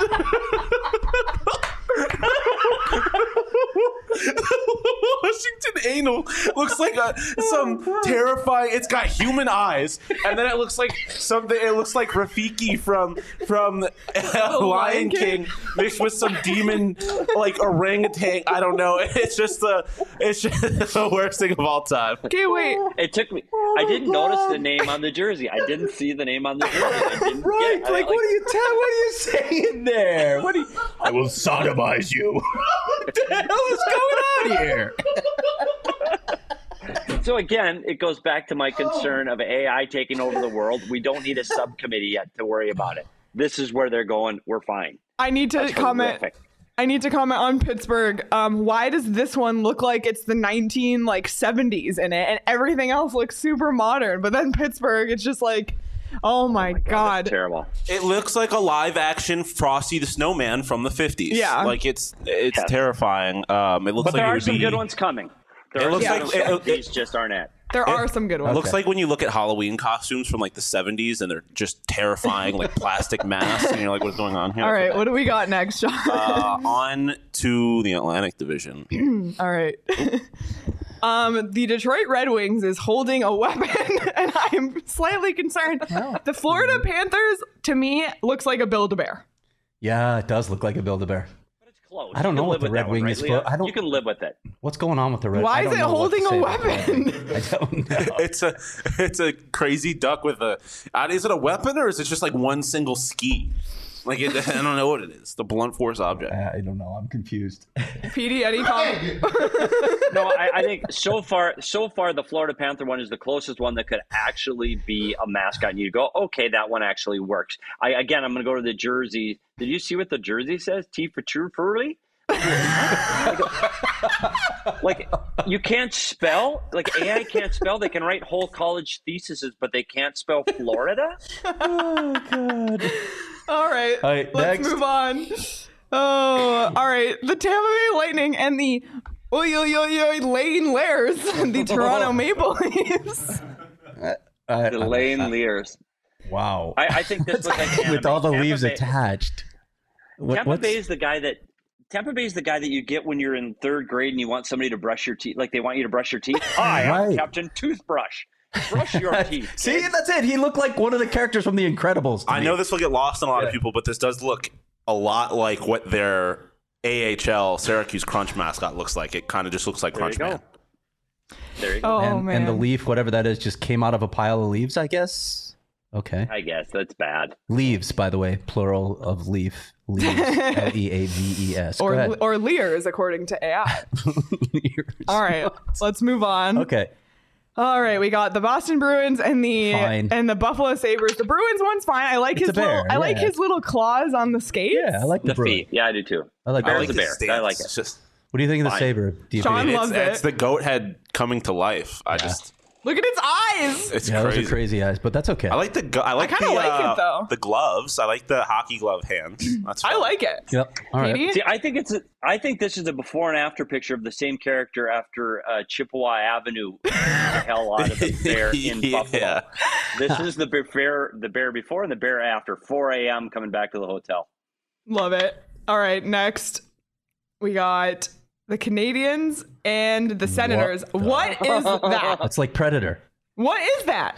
[SPEAKER 4] Washington Anal looks like a some terrifying. It's got human eyes, and then it looks like something. It looks like Rafiki from from uh, Lion King mixed with some demon like orangutan. I don't know. It's just the it's just the worst thing of all time.
[SPEAKER 1] Okay, wait.
[SPEAKER 2] It took me. I didn't notice the name on the jersey. I didn't see the name on the jersey. I didn't
[SPEAKER 3] Right,
[SPEAKER 2] get, I-
[SPEAKER 3] like, what are you tell? What are you saying there? What are you? I will sodomize you. What the hell is going on here?
[SPEAKER 2] So again, it goes back to my concern of A I taking over the world. We don't need a subcommittee yet to worry about it. this is where they're going. We're fine.
[SPEAKER 1] I need to
[SPEAKER 2] That's
[SPEAKER 1] comment.
[SPEAKER 2] horrific.
[SPEAKER 1] I need to comment on Pittsburgh. Um, why does this one look like it's the nineteen like seventies in it, and everything else looks super modern? But then Pittsburgh, it's just like, oh my, oh my god,
[SPEAKER 2] god. That's terrible.
[SPEAKER 4] It looks like a live action Frosty the Snowman from the fifties.
[SPEAKER 1] Yeah,
[SPEAKER 4] like it's it's
[SPEAKER 2] yeah.
[SPEAKER 4] terrifying. Um, it looks
[SPEAKER 2] but
[SPEAKER 4] like
[SPEAKER 2] there
[SPEAKER 4] it
[SPEAKER 2] are
[SPEAKER 4] would
[SPEAKER 2] some
[SPEAKER 4] be,
[SPEAKER 2] good ones coming. There
[SPEAKER 4] it looks
[SPEAKER 2] yeah.
[SPEAKER 4] like it,
[SPEAKER 2] these
[SPEAKER 4] it,
[SPEAKER 2] just aren't it.
[SPEAKER 1] There
[SPEAKER 4] it,
[SPEAKER 1] are some good ones.
[SPEAKER 4] It looks
[SPEAKER 3] okay.
[SPEAKER 4] like when you look at Halloween costumes from like the seventies and they're just terrifying, like plastic masks, and you're like, what's going on here?
[SPEAKER 1] All right, what do we got next, John?
[SPEAKER 4] Uh, on to the Atlantic Division.
[SPEAKER 1] All right. Um, the Detroit Red Wings is holding a weapon, and I am slightly concerned. The Florida Panthers, to me, looks like a Build-A-Bear.
[SPEAKER 3] Yeah, it does look like a Build-A-Bear.
[SPEAKER 2] Close.
[SPEAKER 3] I don't know what the Red Wing is.
[SPEAKER 2] Right,
[SPEAKER 3] I don't.
[SPEAKER 2] You can live with it.
[SPEAKER 3] What's going on with the Red?
[SPEAKER 1] Why
[SPEAKER 3] I
[SPEAKER 1] is
[SPEAKER 3] don't
[SPEAKER 1] it
[SPEAKER 3] know what to
[SPEAKER 1] holding a
[SPEAKER 3] say about the Red Wing.
[SPEAKER 1] weapon?
[SPEAKER 3] I don't know.
[SPEAKER 4] It's a it's a crazy duck with a. Uh, is it a weapon or is it just like one single ski? Like it, I don't know what it is. The blunt force object.
[SPEAKER 3] I don't know. I'm confused.
[SPEAKER 1] P D, any comment?
[SPEAKER 2] No, I, I think so far, so far, the Florida Panther one is the closest one that could actually be a mascot. And you go, okay, that one actually works. I again, I'm going to go to the jersey. Did you see what the jersey says? T for true, Furley. Like, you can't spell. Like, A I can't spell. They can write whole college theses, but they can't spell Florida.
[SPEAKER 3] Oh god.
[SPEAKER 1] All right,
[SPEAKER 3] All right,
[SPEAKER 1] let's
[SPEAKER 3] next.
[SPEAKER 1] move on. Oh, all right. The Tampa Bay Lightning and the oy oy oy oy Lane Lairs, the Toronto Maple Leafs.
[SPEAKER 3] Uh,
[SPEAKER 2] The Lane Lears.
[SPEAKER 3] wow.
[SPEAKER 2] I, I think this looks like anime.
[SPEAKER 3] With all the
[SPEAKER 2] Tampa
[SPEAKER 3] leaves
[SPEAKER 2] Bay,
[SPEAKER 3] attached. What,
[SPEAKER 2] Tampa
[SPEAKER 3] what's-
[SPEAKER 2] Bay is the guy that Tampa Bay is the guy that you get when you're in third grade and you want somebody to brush your teeth. Like they want you to brush your teeth. Hi, I'm
[SPEAKER 3] Right.
[SPEAKER 2] Captain Toothbrush. Brush your teeth.
[SPEAKER 3] See, that's it. He looked like one of the characters from The Incredibles. to
[SPEAKER 4] I
[SPEAKER 3] me.
[SPEAKER 4] know this will get lost on a lot
[SPEAKER 3] Yeah.
[SPEAKER 4] of people, but this does look a lot like what their A H L Syracuse Crunch mascot looks like. It kind of just looks like
[SPEAKER 2] There you
[SPEAKER 4] Crunch
[SPEAKER 2] go.
[SPEAKER 4] Man.
[SPEAKER 2] There you go.
[SPEAKER 1] Oh
[SPEAKER 3] and,
[SPEAKER 1] man.
[SPEAKER 3] and the leaf, whatever that is, just came out of a pile of leaves, I guess. Okay.
[SPEAKER 2] I guess that's bad.
[SPEAKER 3] Leaves, by the way, plural of leaf. Leaves. L E A V E S. Go
[SPEAKER 1] or
[SPEAKER 3] ahead.
[SPEAKER 1] or Lears, according to A I.
[SPEAKER 3] Lears.
[SPEAKER 1] All right, let's move on.
[SPEAKER 3] Okay.
[SPEAKER 1] All right, we got the Boston Bruins and the
[SPEAKER 3] Fine.
[SPEAKER 1] and the Buffalo Sabres. The Bruins one's fine. I like
[SPEAKER 3] It's
[SPEAKER 1] his
[SPEAKER 3] a bear,
[SPEAKER 1] little I like
[SPEAKER 3] yeah.
[SPEAKER 1] his little claws on the skates.
[SPEAKER 3] Yeah, I like the,
[SPEAKER 2] The
[SPEAKER 3] Bruins.
[SPEAKER 2] feet. Yeah, I do too.
[SPEAKER 3] I like
[SPEAKER 4] I
[SPEAKER 3] the
[SPEAKER 2] Bear's
[SPEAKER 4] like
[SPEAKER 2] a
[SPEAKER 4] his
[SPEAKER 2] bear. I
[SPEAKER 4] stance.
[SPEAKER 2] like it.
[SPEAKER 4] It's just
[SPEAKER 3] What do you think of the
[SPEAKER 2] Fine.
[SPEAKER 3] saber? Do you
[SPEAKER 1] Sean
[SPEAKER 3] think-
[SPEAKER 1] loves
[SPEAKER 4] it's,
[SPEAKER 1] it.
[SPEAKER 4] it's the goat head coming to life. I just
[SPEAKER 1] Look at its eyes.
[SPEAKER 4] it's
[SPEAKER 3] yeah,
[SPEAKER 4] crazy.
[SPEAKER 3] those are crazy eyes, but that's okay.
[SPEAKER 4] I like the go- I like
[SPEAKER 1] kinda
[SPEAKER 4] the
[SPEAKER 1] like it,
[SPEAKER 4] uh,
[SPEAKER 1] though.
[SPEAKER 4] the gloves. I like the hockey glove hands. That's
[SPEAKER 1] I
[SPEAKER 4] fun.
[SPEAKER 1] like it.
[SPEAKER 3] Yep. All right.
[SPEAKER 1] P D?
[SPEAKER 2] See, I think it's a, I think this is a before and after picture of the same character after uh, Chippewa Avenue beat the hell out of the bear in
[SPEAKER 4] Yeah.
[SPEAKER 2] Buffalo. This is the bear, the bear before and the bear after. four a.m. coming back to the hotel.
[SPEAKER 1] Love it. All right, next we got the Canadians and the Senators.
[SPEAKER 3] the-
[SPEAKER 1] What is that?
[SPEAKER 3] That's like Predator.
[SPEAKER 1] What is that?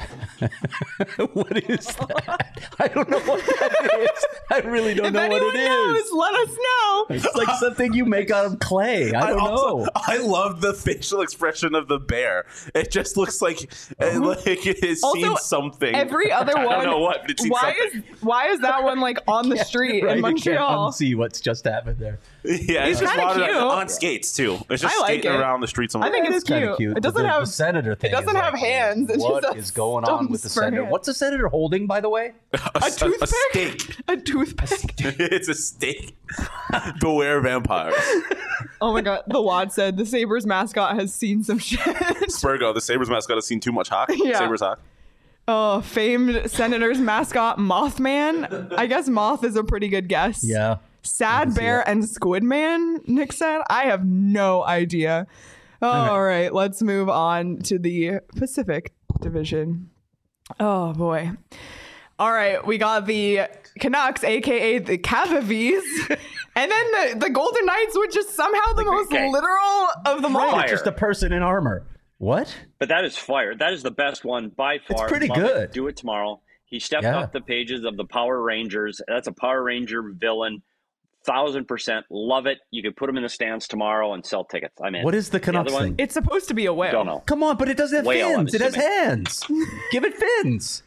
[SPEAKER 3] What is that? I don't know what that is. I really don't
[SPEAKER 1] If
[SPEAKER 3] know what
[SPEAKER 1] anyone
[SPEAKER 3] it
[SPEAKER 1] knows,
[SPEAKER 3] is.
[SPEAKER 1] let us know.
[SPEAKER 3] It's like something you make out of clay. I don't
[SPEAKER 4] also,
[SPEAKER 3] know.
[SPEAKER 4] I love the facial expression of the bear. It just looks like it, like it has
[SPEAKER 1] Also,
[SPEAKER 4] seen something.
[SPEAKER 1] Every other one.
[SPEAKER 4] I don't know what, but it's seen
[SPEAKER 1] why
[SPEAKER 4] something.
[SPEAKER 1] is why is that one like on the street
[SPEAKER 3] Right,
[SPEAKER 1] in
[SPEAKER 3] you can't
[SPEAKER 1] Montreal?
[SPEAKER 3] unsee what's just happened there.
[SPEAKER 4] Yeah,
[SPEAKER 1] It's
[SPEAKER 4] it's just
[SPEAKER 1] kinda
[SPEAKER 4] water
[SPEAKER 1] cute.
[SPEAKER 4] on skates too. It's just
[SPEAKER 1] I like
[SPEAKER 4] skating
[SPEAKER 1] it.
[SPEAKER 4] around the streets. Of
[SPEAKER 1] I think
[SPEAKER 3] It
[SPEAKER 1] it's
[SPEAKER 3] is kinda
[SPEAKER 1] cute.
[SPEAKER 3] cute.
[SPEAKER 1] It
[SPEAKER 3] but
[SPEAKER 1] doesn't
[SPEAKER 3] the,
[SPEAKER 1] have-
[SPEAKER 3] the senator thing.
[SPEAKER 1] doesn't
[SPEAKER 3] is
[SPEAKER 1] have
[SPEAKER 3] like,
[SPEAKER 1] hands. It's
[SPEAKER 3] what
[SPEAKER 1] just a
[SPEAKER 3] is going on with the
[SPEAKER 1] stumps for
[SPEAKER 3] senator?
[SPEAKER 1] hands.
[SPEAKER 3] What's the senator holding, by the way?
[SPEAKER 1] a toothpick.
[SPEAKER 4] steak.
[SPEAKER 1] A toothpick.
[SPEAKER 4] It's a steak. Beware vampires.
[SPEAKER 1] Oh my god. The Wad said the Sabres mascot has seen some shit.
[SPEAKER 4] Spurgo, the Sabres mascot, has seen too much hockey.
[SPEAKER 1] Yeah.
[SPEAKER 4] Sabres hockey.
[SPEAKER 1] Oh, famed Senators mascot Mothman. I guess Moth is a pretty good guess.
[SPEAKER 3] Yeah.
[SPEAKER 1] Sad Bear and Squid Man, Nick said. I have no idea. All right, let's move on to the Pacific Division. Oh boy. All right, we got the Canucks, aka the Cavavies, and then the, the Golden Knights, which is somehow the most
[SPEAKER 2] Okay.
[SPEAKER 1] literal of them all.
[SPEAKER 2] Fire.
[SPEAKER 3] Just a person in armor. What?
[SPEAKER 2] But that is fire. That is the best one by far.
[SPEAKER 3] pretty
[SPEAKER 2] Love it.
[SPEAKER 3] good.
[SPEAKER 2] Do it tomorrow. He stepped
[SPEAKER 3] Yeah.
[SPEAKER 2] up the pages of the Power Rangers. That's a Power Ranger villain. Thousand percent. Love it. You could put him in the stands tomorrow and sell tickets. I'm in.
[SPEAKER 3] What is the Canucks
[SPEAKER 2] other one?
[SPEAKER 3] thing?
[SPEAKER 1] It's supposed to be a whale.
[SPEAKER 2] Don't know.
[SPEAKER 3] Come on, but it doesn't have
[SPEAKER 2] Whale, I'm
[SPEAKER 3] fins. It has
[SPEAKER 2] assuming.
[SPEAKER 3] hands. Give it fins.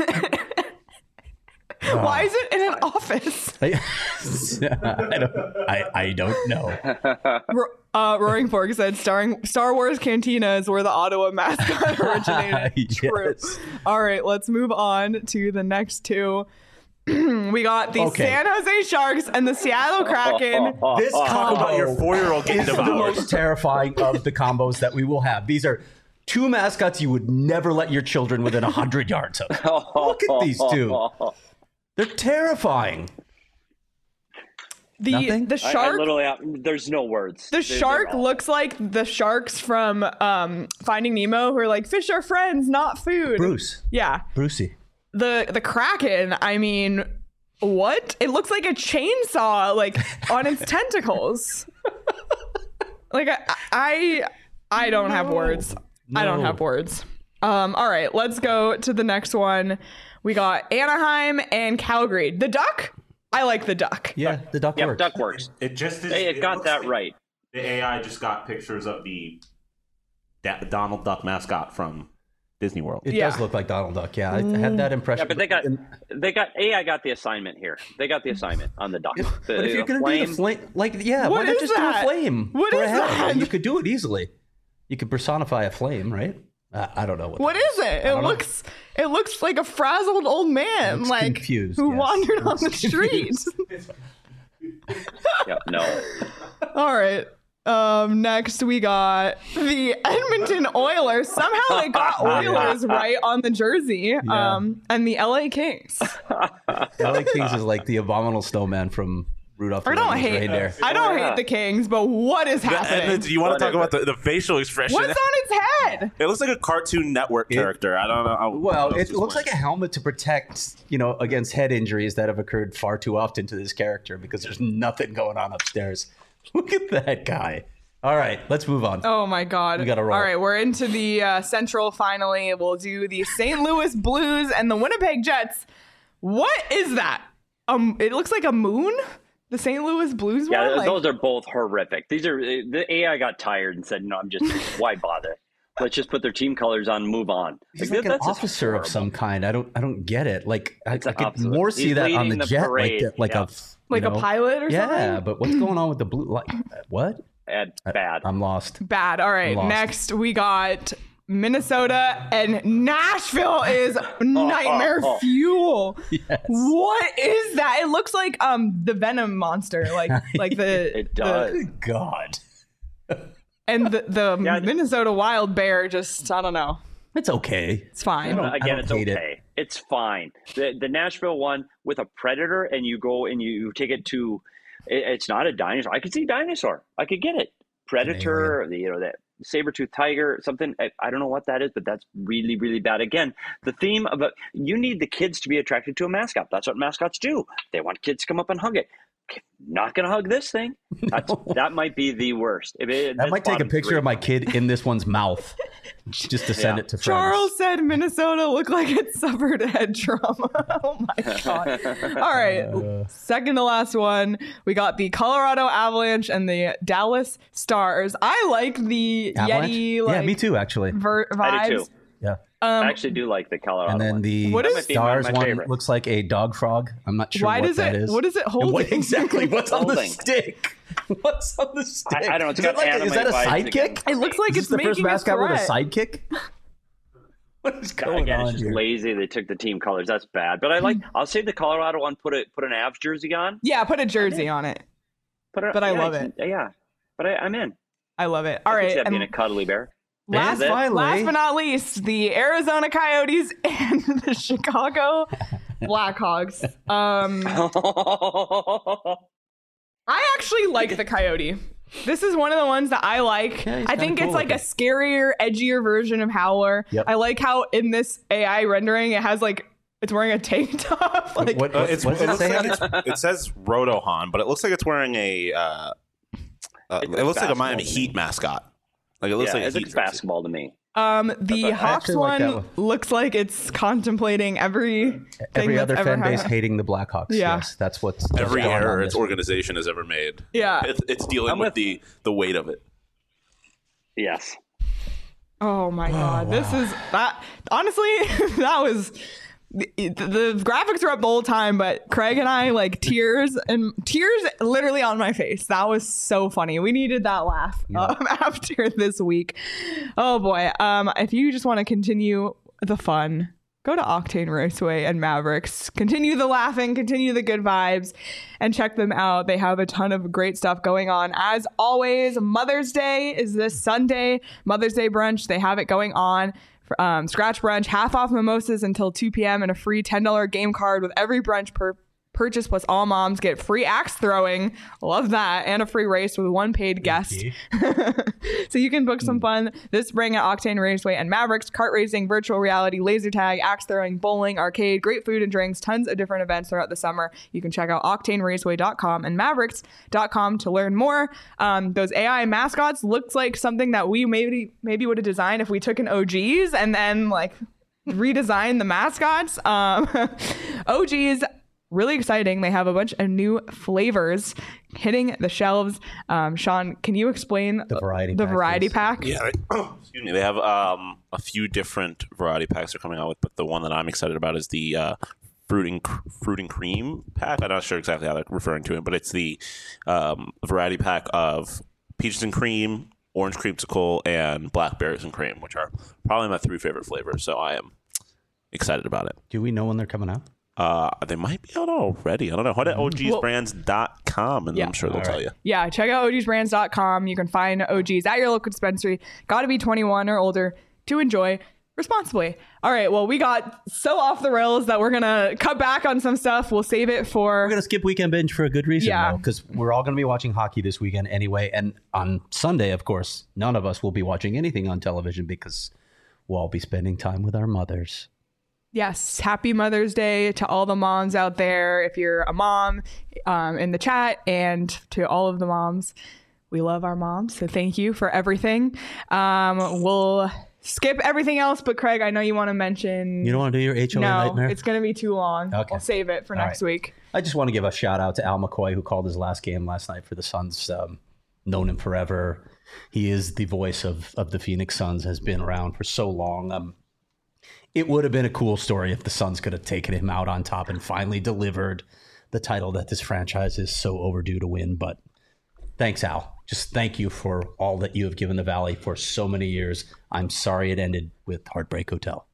[SPEAKER 1] Why is it in an office?
[SPEAKER 3] I, I, don't, I, I don't know.
[SPEAKER 1] Ro- uh, Roaring Fork said, starring Star Wars Cantina is where the Ottawa mascot originated. True.
[SPEAKER 3] Yes.
[SPEAKER 1] All right, let's move on to the next two. we got the
[SPEAKER 3] Okay.
[SPEAKER 1] San Jose Sharks and the Seattle Kraken.
[SPEAKER 3] This
[SPEAKER 4] Talk
[SPEAKER 3] combo
[SPEAKER 4] about your four-year-old getting
[SPEAKER 3] is the
[SPEAKER 4] devoured.
[SPEAKER 3] most terrifying of the combos that we will have. These are two mascots you would never let your children within one hundred yards of. Look at these two. They're terrifying.
[SPEAKER 1] The
[SPEAKER 3] Nothing?
[SPEAKER 1] the
[SPEAKER 2] I, I
[SPEAKER 1] shark
[SPEAKER 2] literally, have, there's no words.
[SPEAKER 1] the
[SPEAKER 2] They're-
[SPEAKER 1] shark
[SPEAKER 2] they're all-
[SPEAKER 1] looks like the sharks from um Finding Nemo who are like fish are friends, not food.
[SPEAKER 3] Bruce.
[SPEAKER 1] Yeah.
[SPEAKER 3] Brucey.
[SPEAKER 1] The the Kraken, I mean, what? It looks like a chainsaw like on its tentacles. Like I I I don't have words. I don't
[SPEAKER 3] No.
[SPEAKER 1] have words. Um all right, let's go to the next one. We got Anaheim and Calgary. The Duck? I like the Duck.
[SPEAKER 3] Yeah, the duck
[SPEAKER 2] Yeah,
[SPEAKER 3] works.
[SPEAKER 2] duck works.
[SPEAKER 4] It just is.
[SPEAKER 2] Hey, it got
[SPEAKER 4] looks
[SPEAKER 2] that
[SPEAKER 4] like
[SPEAKER 2] right.
[SPEAKER 4] The A I just got pictures of the Da- Donald Duck mascot from Disney World.
[SPEAKER 3] It
[SPEAKER 1] Yeah.
[SPEAKER 3] does look like Donald Duck. Yeah, I had that impression.
[SPEAKER 2] Yeah, but they got
[SPEAKER 3] And-
[SPEAKER 2] they got A I got the assignment here. They got the assignment on the duck. The,
[SPEAKER 3] but if you're
[SPEAKER 2] the
[SPEAKER 3] gonna
[SPEAKER 2] flame,
[SPEAKER 3] do the flame, like yeah,
[SPEAKER 1] What
[SPEAKER 3] why not
[SPEAKER 1] is
[SPEAKER 3] just
[SPEAKER 1] that?
[SPEAKER 3] do a flame?
[SPEAKER 1] What
[SPEAKER 3] for
[SPEAKER 1] is
[SPEAKER 3] a head?
[SPEAKER 1] that?
[SPEAKER 3] You could do it easily. You could personify a flame, right? Uh, I don't know what.
[SPEAKER 1] What
[SPEAKER 3] that
[SPEAKER 1] is it? It
[SPEAKER 3] don't know.
[SPEAKER 1] looks it looks like a frazzled old man,
[SPEAKER 3] Looks
[SPEAKER 1] like
[SPEAKER 3] confused,
[SPEAKER 1] who
[SPEAKER 3] yes.
[SPEAKER 1] wandered on
[SPEAKER 3] Looks
[SPEAKER 1] the streets.
[SPEAKER 2] yeah, no.
[SPEAKER 1] All right. Um, next we got the Edmonton Oilers. Somehow they got Oilers right on the jersey. Um, and the L A Kings.
[SPEAKER 3] L A Kings is like the abominable snowman from Rudolph the
[SPEAKER 1] I don't
[SPEAKER 3] Red-Nosed
[SPEAKER 1] hate
[SPEAKER 3] Reindeer.
[SPEAKER 1] I don't
[SPEAKER 2] Yeah.
[SPEAKER 1] hate the Kings, but what is happening?
[SPEAKER 4] And you want to talk
[SPEAKER 2] Whatever.
[SPEAKER 4] about the, the facial expression?
[SPEAKER 1] What's on its head?
[SPEAKER 4] It looks like a Cartoon Network
[SPEAKER 3] It-
[SPEAKER 4] character. I don't know. I-
[SPEAKER 3] Well,
[SPEAKER 4] what else
[SPEAKER 3] it
[SPEAKER 4] is
[SPEAKER 3] looks
[SPEAKER 4] going
[SPEAKER 3] like a helmet to protect, you know, against head injuries that have occurred far too often to this character because there's nothing going on upstairs. Look at that guy. All right, let's move on.
[SPEAKER 1] Oh my God.
[SPEAKER 3] We gotta roll.
[SPEAKER 1] All right, we're into the uh, Central finally. We'll do the Saint Louis Blues and the Winnipeg Jets. What is that? Um, it looks like a moon? The Saint Louis Blues
[SPEAKER 2] Yeah,
[SPEAKER 1] one? Like-
[SPEAKER 2] those are both horrific. These are the A I got tired and said, "No, I'm just why bother? Let's just put their team colors on and move on."
[SPEAKER 3] He's
[SPEAKER 2] Like,
[SPEAKER 3] like an
[SPEAKER 2] that's just
[SPEAKER 3] officer of
[SPEAKER 2] horrible.
[SPEAKER 3] some kind. I don't, I don't get it. Like I, I
[SPEAKER 2] It's an
[SPEAKER 3] could
[SPEAKER 2] officer.
[SPEAKER 3] more see
[SPEAKER 2] He's
[SPEAKER 3] that on
[SPEAKER 2] leading
[SPEAKER 3] the,
[SPEAKER 2] the
[SPEAKER 3] jet,
[SPEAKER 2] parade,
[SPEAKER 3] like, like
[SPEAKER 2] yeah.
[SPEAKER 3] a,
[SPEAKER 1] like
[SPEAKER 3] you
[SPEAKER 1] a
[SPEAKER 3] know-
[SPEAKER 1] pilot or something?
[SPEAKER 3] Yeah, but what's going on with the blue? Like what?
[SPEAKER 2] Bad, bad.
[SPEAKER 3] I'm lost.
[SPEAKER 1] Bad. All right.
[SPEAKER 3] lost.
[SPEAKER 1] Next, we got Minnesota and Nashville is nightmare
[SPEAKER 2] oh, oh.
[SPEAKER 1] fuel.
[SPEAKER 3] Yes.
[SPEAKER 1] What is that? It looks like um the Venom monster, like like the
[SPEAKER 2] It
[SPEAKER 1] the-
[SPEAKER 2] does.
[SPEAKER 3] Good God.
[SPEAKER 1] and the the
[SPEAKER 2] Yeah.
[SPEAKER 1] Minnesota wild bear. Just I don't know.
[SPEAKER 3] It's okay.
[SPEAKER 1] It's fine.
[SPEAKER 3] don't-
[SPEAKER 2] Again,
[SPEAKER 3] I
[SPEAKER 2] it's
[SPEAKER 3] hate it.
[SPEAKER 2] okay. It's fine. The the Nashville one with a predator, and you go and you, you take it to. It, it's not a dinosaur. I could see dinosaur. I could get it. Predator, or the, you know that saber-toothed tiger, something. I, I don't know what that is, but that's really really bad. Again, the theme of a, you need the kids to be attracted to a mascot. That's what mascots do. They want kids to come up and hug it. Not gonna hug this thing. That's, that might be the worst. If it,
[SPEAKER 3] I
[SPEAKER 2] that's
[SPEAKER 3] might take a
[SPEAKER 2] bottom
[SPEAKER 3] picture
[SPEAKER 2] three.
[SPEAKER 3] of my kid in this one's mouth just to send
[SPEAKER 2] Yeah.
[SPEAKER 3] it to friends.
[SPEAKER 1] Charles said Minnesota looked like it suffered head trauma. Oh my God. All right. Second to last one. We got the Colorado Avalanche and the Dallas Stars. I like the
[SPEAKER 3] Avalanche?
[SPEAKER 1] Yeti like
[SPEAKER 3] yeah, me too, actually.
[SPEAKER 1] ver- vibes.
[SPEAKER 2] I do too.
[SPEAKER 3] Yeah.
[SPEAKER 1] Um,
[SPEAKER 2] I actually do like the Colorado
[SPEAKER 3] And then
[SPEAKER 2] one.
[SPEAKER 3] the
[SPEAKER 1] What
[SPEAKER 2] That
[SPEAKER 1] is-
[SPEAKER 2] might be one of
[SPEAKER 3] Stars
[SPEAKER 2] my
[SPEAKER 3] one
[SPEAKER 2] favorites.
[SPEAKER 3] looks like a dog frog. I'm not sure
[SPEAKER 1] why
[SPEAKER 3] what
[SPEAKER 1] does
[SPEAKER 3] that
[SPEAKER 1] it
[SPEAKER 3] is.
[SPEAKER 1] what is it
[SPEAKER 3] And
[SPEAKER 1] holding?
[SPEAKER 3] what exactly? What's on the
[SPEAKER 2] Holding.
[SPEAKER 3] stick? What's on the stick?
[SPEAKER 2] I don't know, it's
[SPEAKER 3] Is,
[SPEAKER 2] got
[SPEAKER 3] that like, is that a
[SPEAKER 2] anime vibes again.
[SPEAKER 3] sidekick?
[SPEAKER 1] It looks like
[SPEAKER 3] Is
[SPEAKER 1] it's
[SPEAKER 3] this the first
[SPEAKER 1] making a
[SPEAKER 3] mascot with a
[SPEAKER 1] threat.
[SPEAKER 3] sidekick? What is going
[SPEAKER 2] Again,
[SPEAKER 3] on
[SPEAKER 2] it's just
[SPEAKER 3] here?
[SPEAKER 2] lazy. They took the team colors. That's bad. But I like. I'll say the Colorado one. Put a put an Avs jersey on.
[SPEAKER 1] Yeah, put a jersey on it.
[SPEAKER 2] Put a,
[SPEAKER 1] But I
[SPEAKER 2] yeah,
[SPEAKER 1] love
[SPEAKER 2] it's-
[SPEAKER 1] it.
[SPEAKER 2] Yeah, but I, I'm in.
[SPEAKER 1] I love it. All
[SPEAKER 2] I can
[SPEAKER 1] right.
[SPEAKER 2] see that being
[SPEAKER 1] and
[SPEAKER 2] a cuddly bear.
[SPEAKER 1] last,
[SPEAKER 2] it.
[SPEAKER 3] Finally.
[SPEAKER 1] last but not least, the Arizona Coyotes and the Chicago Blackhawks. Um, I actually like the Coyote. This is one of the ones that I like.
[SPEAKER 3] Yeah, he's
[SPEAKER 1] I think
[SPEAKER 3] kinda
[SPEAKER 1] it's
[SPEAKER 3] cool
[SPEAKER 1] like a
[SPEAKER 3] looking.
[SPEAKER 1] scarier, edgier version of Howler.
[SPEAKER 3] Yep.
[SPEAKER 1] I like how in this A I rendering it has like it's wearing a tank top. Like
[SPEAKER 3] What,
[SPEAKER 4] Uh,
[SPEAKER 3] what,
[SPEAKER 4] it's,
[SPEAKER 3] what
[SPEAKER 4] it,
[SPEAKER 3] does
[SPEAKER 4] looks
[SPEAKER 3] it say?
[SPEAKER 4] like it's, it says Rotohan, but it looks like it's wearing a. Uh, uh,
[SPEAKER 2] It's
[SPEAKER 4] it
[SPEAKER 2] like
[SPEAKER 4] looks like a Miami
[SPEAKER 2] basketball.
[SPEAKER 4] Heat mascot. Like it looks
[SPEAKER 2] yeah,
[SPEAKER 4] like a
[SPEAKER 2] it
[SPEAKER 4] Heat
[SPEAKER 2] looks
[SPEAKER 4] jersey.
[SPEAKER 2] basketball to me.
[SPEAKER 1] um the
[SPEAKER 2] I
[SPEAKER 1] Hawks
[SPEAKER 3] actually like
[SPEAKER 1] one,
[SPEAKER 3] that one.
[SPEAKER 1] looks like it's contemplating every
[SPEAKER 3] Every
[SPEAKER 1] that's
[SPEAKER 3] other
[SPEAKER 1] ever
[SPEAKER 3] fan base
[SPEAKER 1] happened.
[SPEAKER 3] hating the Blackhawks.
[SPEAKER 1] Yeah.
[SPEAKER 3] Yes, that's what's
[SPEAKER 4] Every
[SPEAKER 3] going on
[SPEAKER 4] error
[SPEAKER 3] this
[SPEAKER 4] its organization has ever made.
[SPEAKER 1] Yeah.
[SPEAKER 4] It's, it's dealing
[SPEAKER 2] I'm
[SPEAKER 4] with
[SPEAKER 2] with-
[SPEAKER 4] the the weight of it.
[SPEAKER 2] Yes.
[SPEAKER 1] Oh my god, this is that. Honestly, that was the, the graphics were up the whole time, but Craig and I like tears and tears literally on my face. That was so funny. We needed that laugh um, after this week. Oh boy. Um, if you just want to continue the fun, go to Octane Raceway and Mavericks. Continue the laughing, continue the good vibes, and check them out. They have a ton of great stuff going on. As always, Mother's Day is this Sunday. Mother's Day brunch, they have it going on. Um, scratch brunch, half off mimosas until two p.m. and a free ten dollars game card with every brunch per purchase, plus all moms get free axe throwing. Love that. And a free race with one paid guest. So you can book some fun this spring at Octane Raceway and Mavericks. Kart racing, virtual reality, laser tag, axe throwing, bowling, arcade, great food and drinks, tons of different events throughout the summer. You can check out octane raceway dot com and mavericks dot com to learn more. Um, those A I mascots looks like something that we maybe maybe would have designed if we took an O G's and then like redesigned the mascots. Um, O G's, really exciting. They have a bunch of new flavors hitting the shelves. Um, Sean, can you explain
[SPEAKER 3] the variety
[SPEAKER 1] the
[SPEAKER 3] pack,
[SPEAKER 1] variety
[SPEAKER 3] please.
[SPEAKER 1] pack?
[SPEAKER 4] Yeah, excuse me. They have um, a few different variety packs they're coming out with, but the one that I'm excited about is the uh, fruit and cr- fruit and cream pack. I'm not sure exactly how they're referring to it, but it's the um, variety pack of peaches and cream, orange creamsicle, and blackberries and cream, which are probably my three favorite flavors. So I am excited about it.
[SPEAKER 3] Do we know when they're coming out?
[SPEAKER 4] Uh, they might be out already. I don't know. Head to O Gs brands dot com and
[SPEAKER 1] Yeah.
[SPEAKER 4] I'm sure they'll
[SPEAKER 3] All
[SPEAKER 4] tell
[SPEAKER 3] right.
[SPEAKER 4] you.
[SPEAKER 1] Yeah, check out O Gs brands dot com. You can find O Gs at your local dispensary. Got to be twenty-one or older to enjoy responsibly. All right, well, we got so off the rails that we're going to cut back on some stuff. We'll save it for...
[SPEAKER 3] We're going to skip Weekend Binge for a good reason,
[SPEAKER 1] Yeah.
[SPEAKER 3] though, because we're all going to be watching hockey this weekend anyway. And on Sunday, of course, none of us will be watching anything on television because we'll all be spending time with our mothers.
[SPEAKER 1] Yes, happy Mother's Day to all the moms out there. If you're a mom um, in the chat, and to all of the moms, we love our moms. So thank you for everything. Um, we'll skip everything else, but Craig, I know you want to mention.
[SPEAKER 3] You don't want to do your H O A
[SPEAKER 1] No,
[SPEAKER 3] nightmare?
[SPEAKER 1] it's going to be too long.
[SPEAKER 3] Okay.
[SPEAKER 1] We'll save it for
[SPEAKER 3] All
[SPEAKER 1] next
[SPEAKER 3] right.
[SPEAKER 1] week.
[SPEAKER 3] I just want to give a shout out to Al McCoy, who called his last game last night for the Suns. Um, known him forever. He is the voice of, of the Phoenix Suns, has been around for so long. Um, It would have been a cool story if the Suns could have taken him out on top and finally delivered the title that this franchise is so overdue to win. But thanks, Al. Just thank you for all that you have given the Valley for so many years. I'm sorry it ended with Heartbreak Hotel.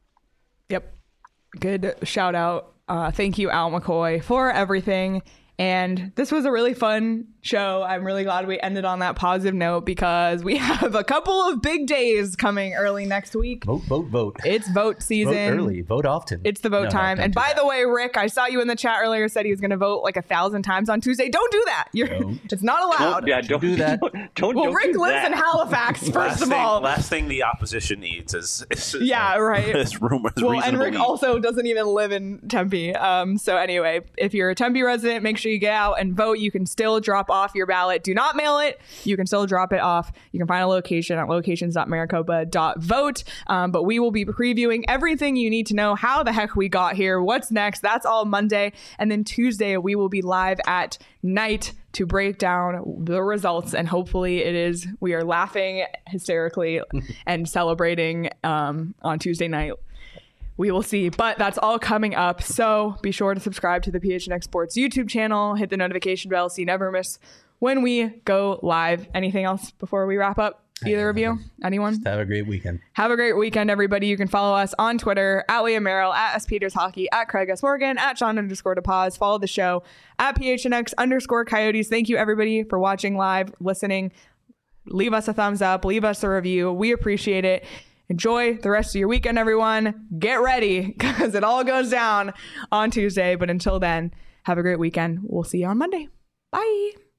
[SPEAKER 1] Yep. Good shout out. Uh, thank you, Al McCoy, for everything. And this was a really fun show. I'm really glad we ended on that positive note because we have a couple of big days coming early next week.
[SPEAKER 3] Vote, vote, vote.
[SPEAKER 1] It's vote season.
[SPEAKER 3] Vote early. Vote often.
[SPEAKER 1] It's the vote
[SPEAKER 3] No, no,
[SPEAKER 1] time.
[SPEAKER 3] don't
[SPEAKER 1] And
[SPEAKER 3] do
[SPEAKER 1] by
[SPEAKER 3] that.
[SPEAKER 1] the way, Rick, I saw you in the chat earlier, said he was going to vote like a thousand times on Tuesday. Don't do that. You're,
[SPEAKER 3] Don't.
[SPEAKER 1] it's not allowed.
[SPEAKER 2] Don't, yeah, don't
[SPEAKER 3] do that.
[SPEAKER 2] Don't, don't,
[SPEAKER 1] well,
[SPEAKER 2] don't
[SPEAKER 1] Rick
[SPEAKER 2] do
[SPEAKER 1] lives
[SPEAKER 2] that.
[SPEAKER 1] in Halifax, first
[SPEAKER 4] last
[SPEAKER 1] of
[SPEAKER 4] thing,
[SPEAKER 1] all.
[SPEAKER 4] last thing the opposition needs is, is
[SPEAKER 1] Yeah, right.
[SPEAKER 4] Is rumors.
[SPEAKER 1] Well,
[SPEAKER 4] reason
[SPEAKER 1] and
[SPEAKER 4] to
[SPEAKER 1] Rick
[SPEAKER 4] believe.
[SPEAKER 1] also doesn't even live in Tempe. Um, so anyway, if you're a Tempe resident, make sure you get out and vote. You can still drop off your ballot. Do not mail it. You can still drop it off. You can find a location at locations dot maricopa dot vote. Um, but we will be previewing everything you need to know how the heck we got here. What's next? That's all Monday. And then Tuesday, we will be live at night to break down the results. And hopefully it is, we are laughing hysterically and celebrating um, on Tuesday night. We will see, but that's all coming up. So be sure to subscribe to the P H N X Sports YouTube channel, hit the notification bell so you never miss when we go live. Anything else before we wrap up? Either of you? Anyone?
[SPEAKER 3] Have a great weekend.
[SPEAKER 1] Have a great weekend, everybody. You can follow us on Twitter at Liam Merrill, at S Peters Hockey, at Craig S Morgan, at Sean underscore DePaz. Follow the show at P H N X underscore Coyotes. Thank you, everybody, for watching live, listening. Leave us a thumbs up. Leave us a review. We appreciate it. Enjoy the rest of your weekend, everyone. Get ready because it all goes down on Tuesday. But until then, have a great weekend. We'll see you on Monday. Bye.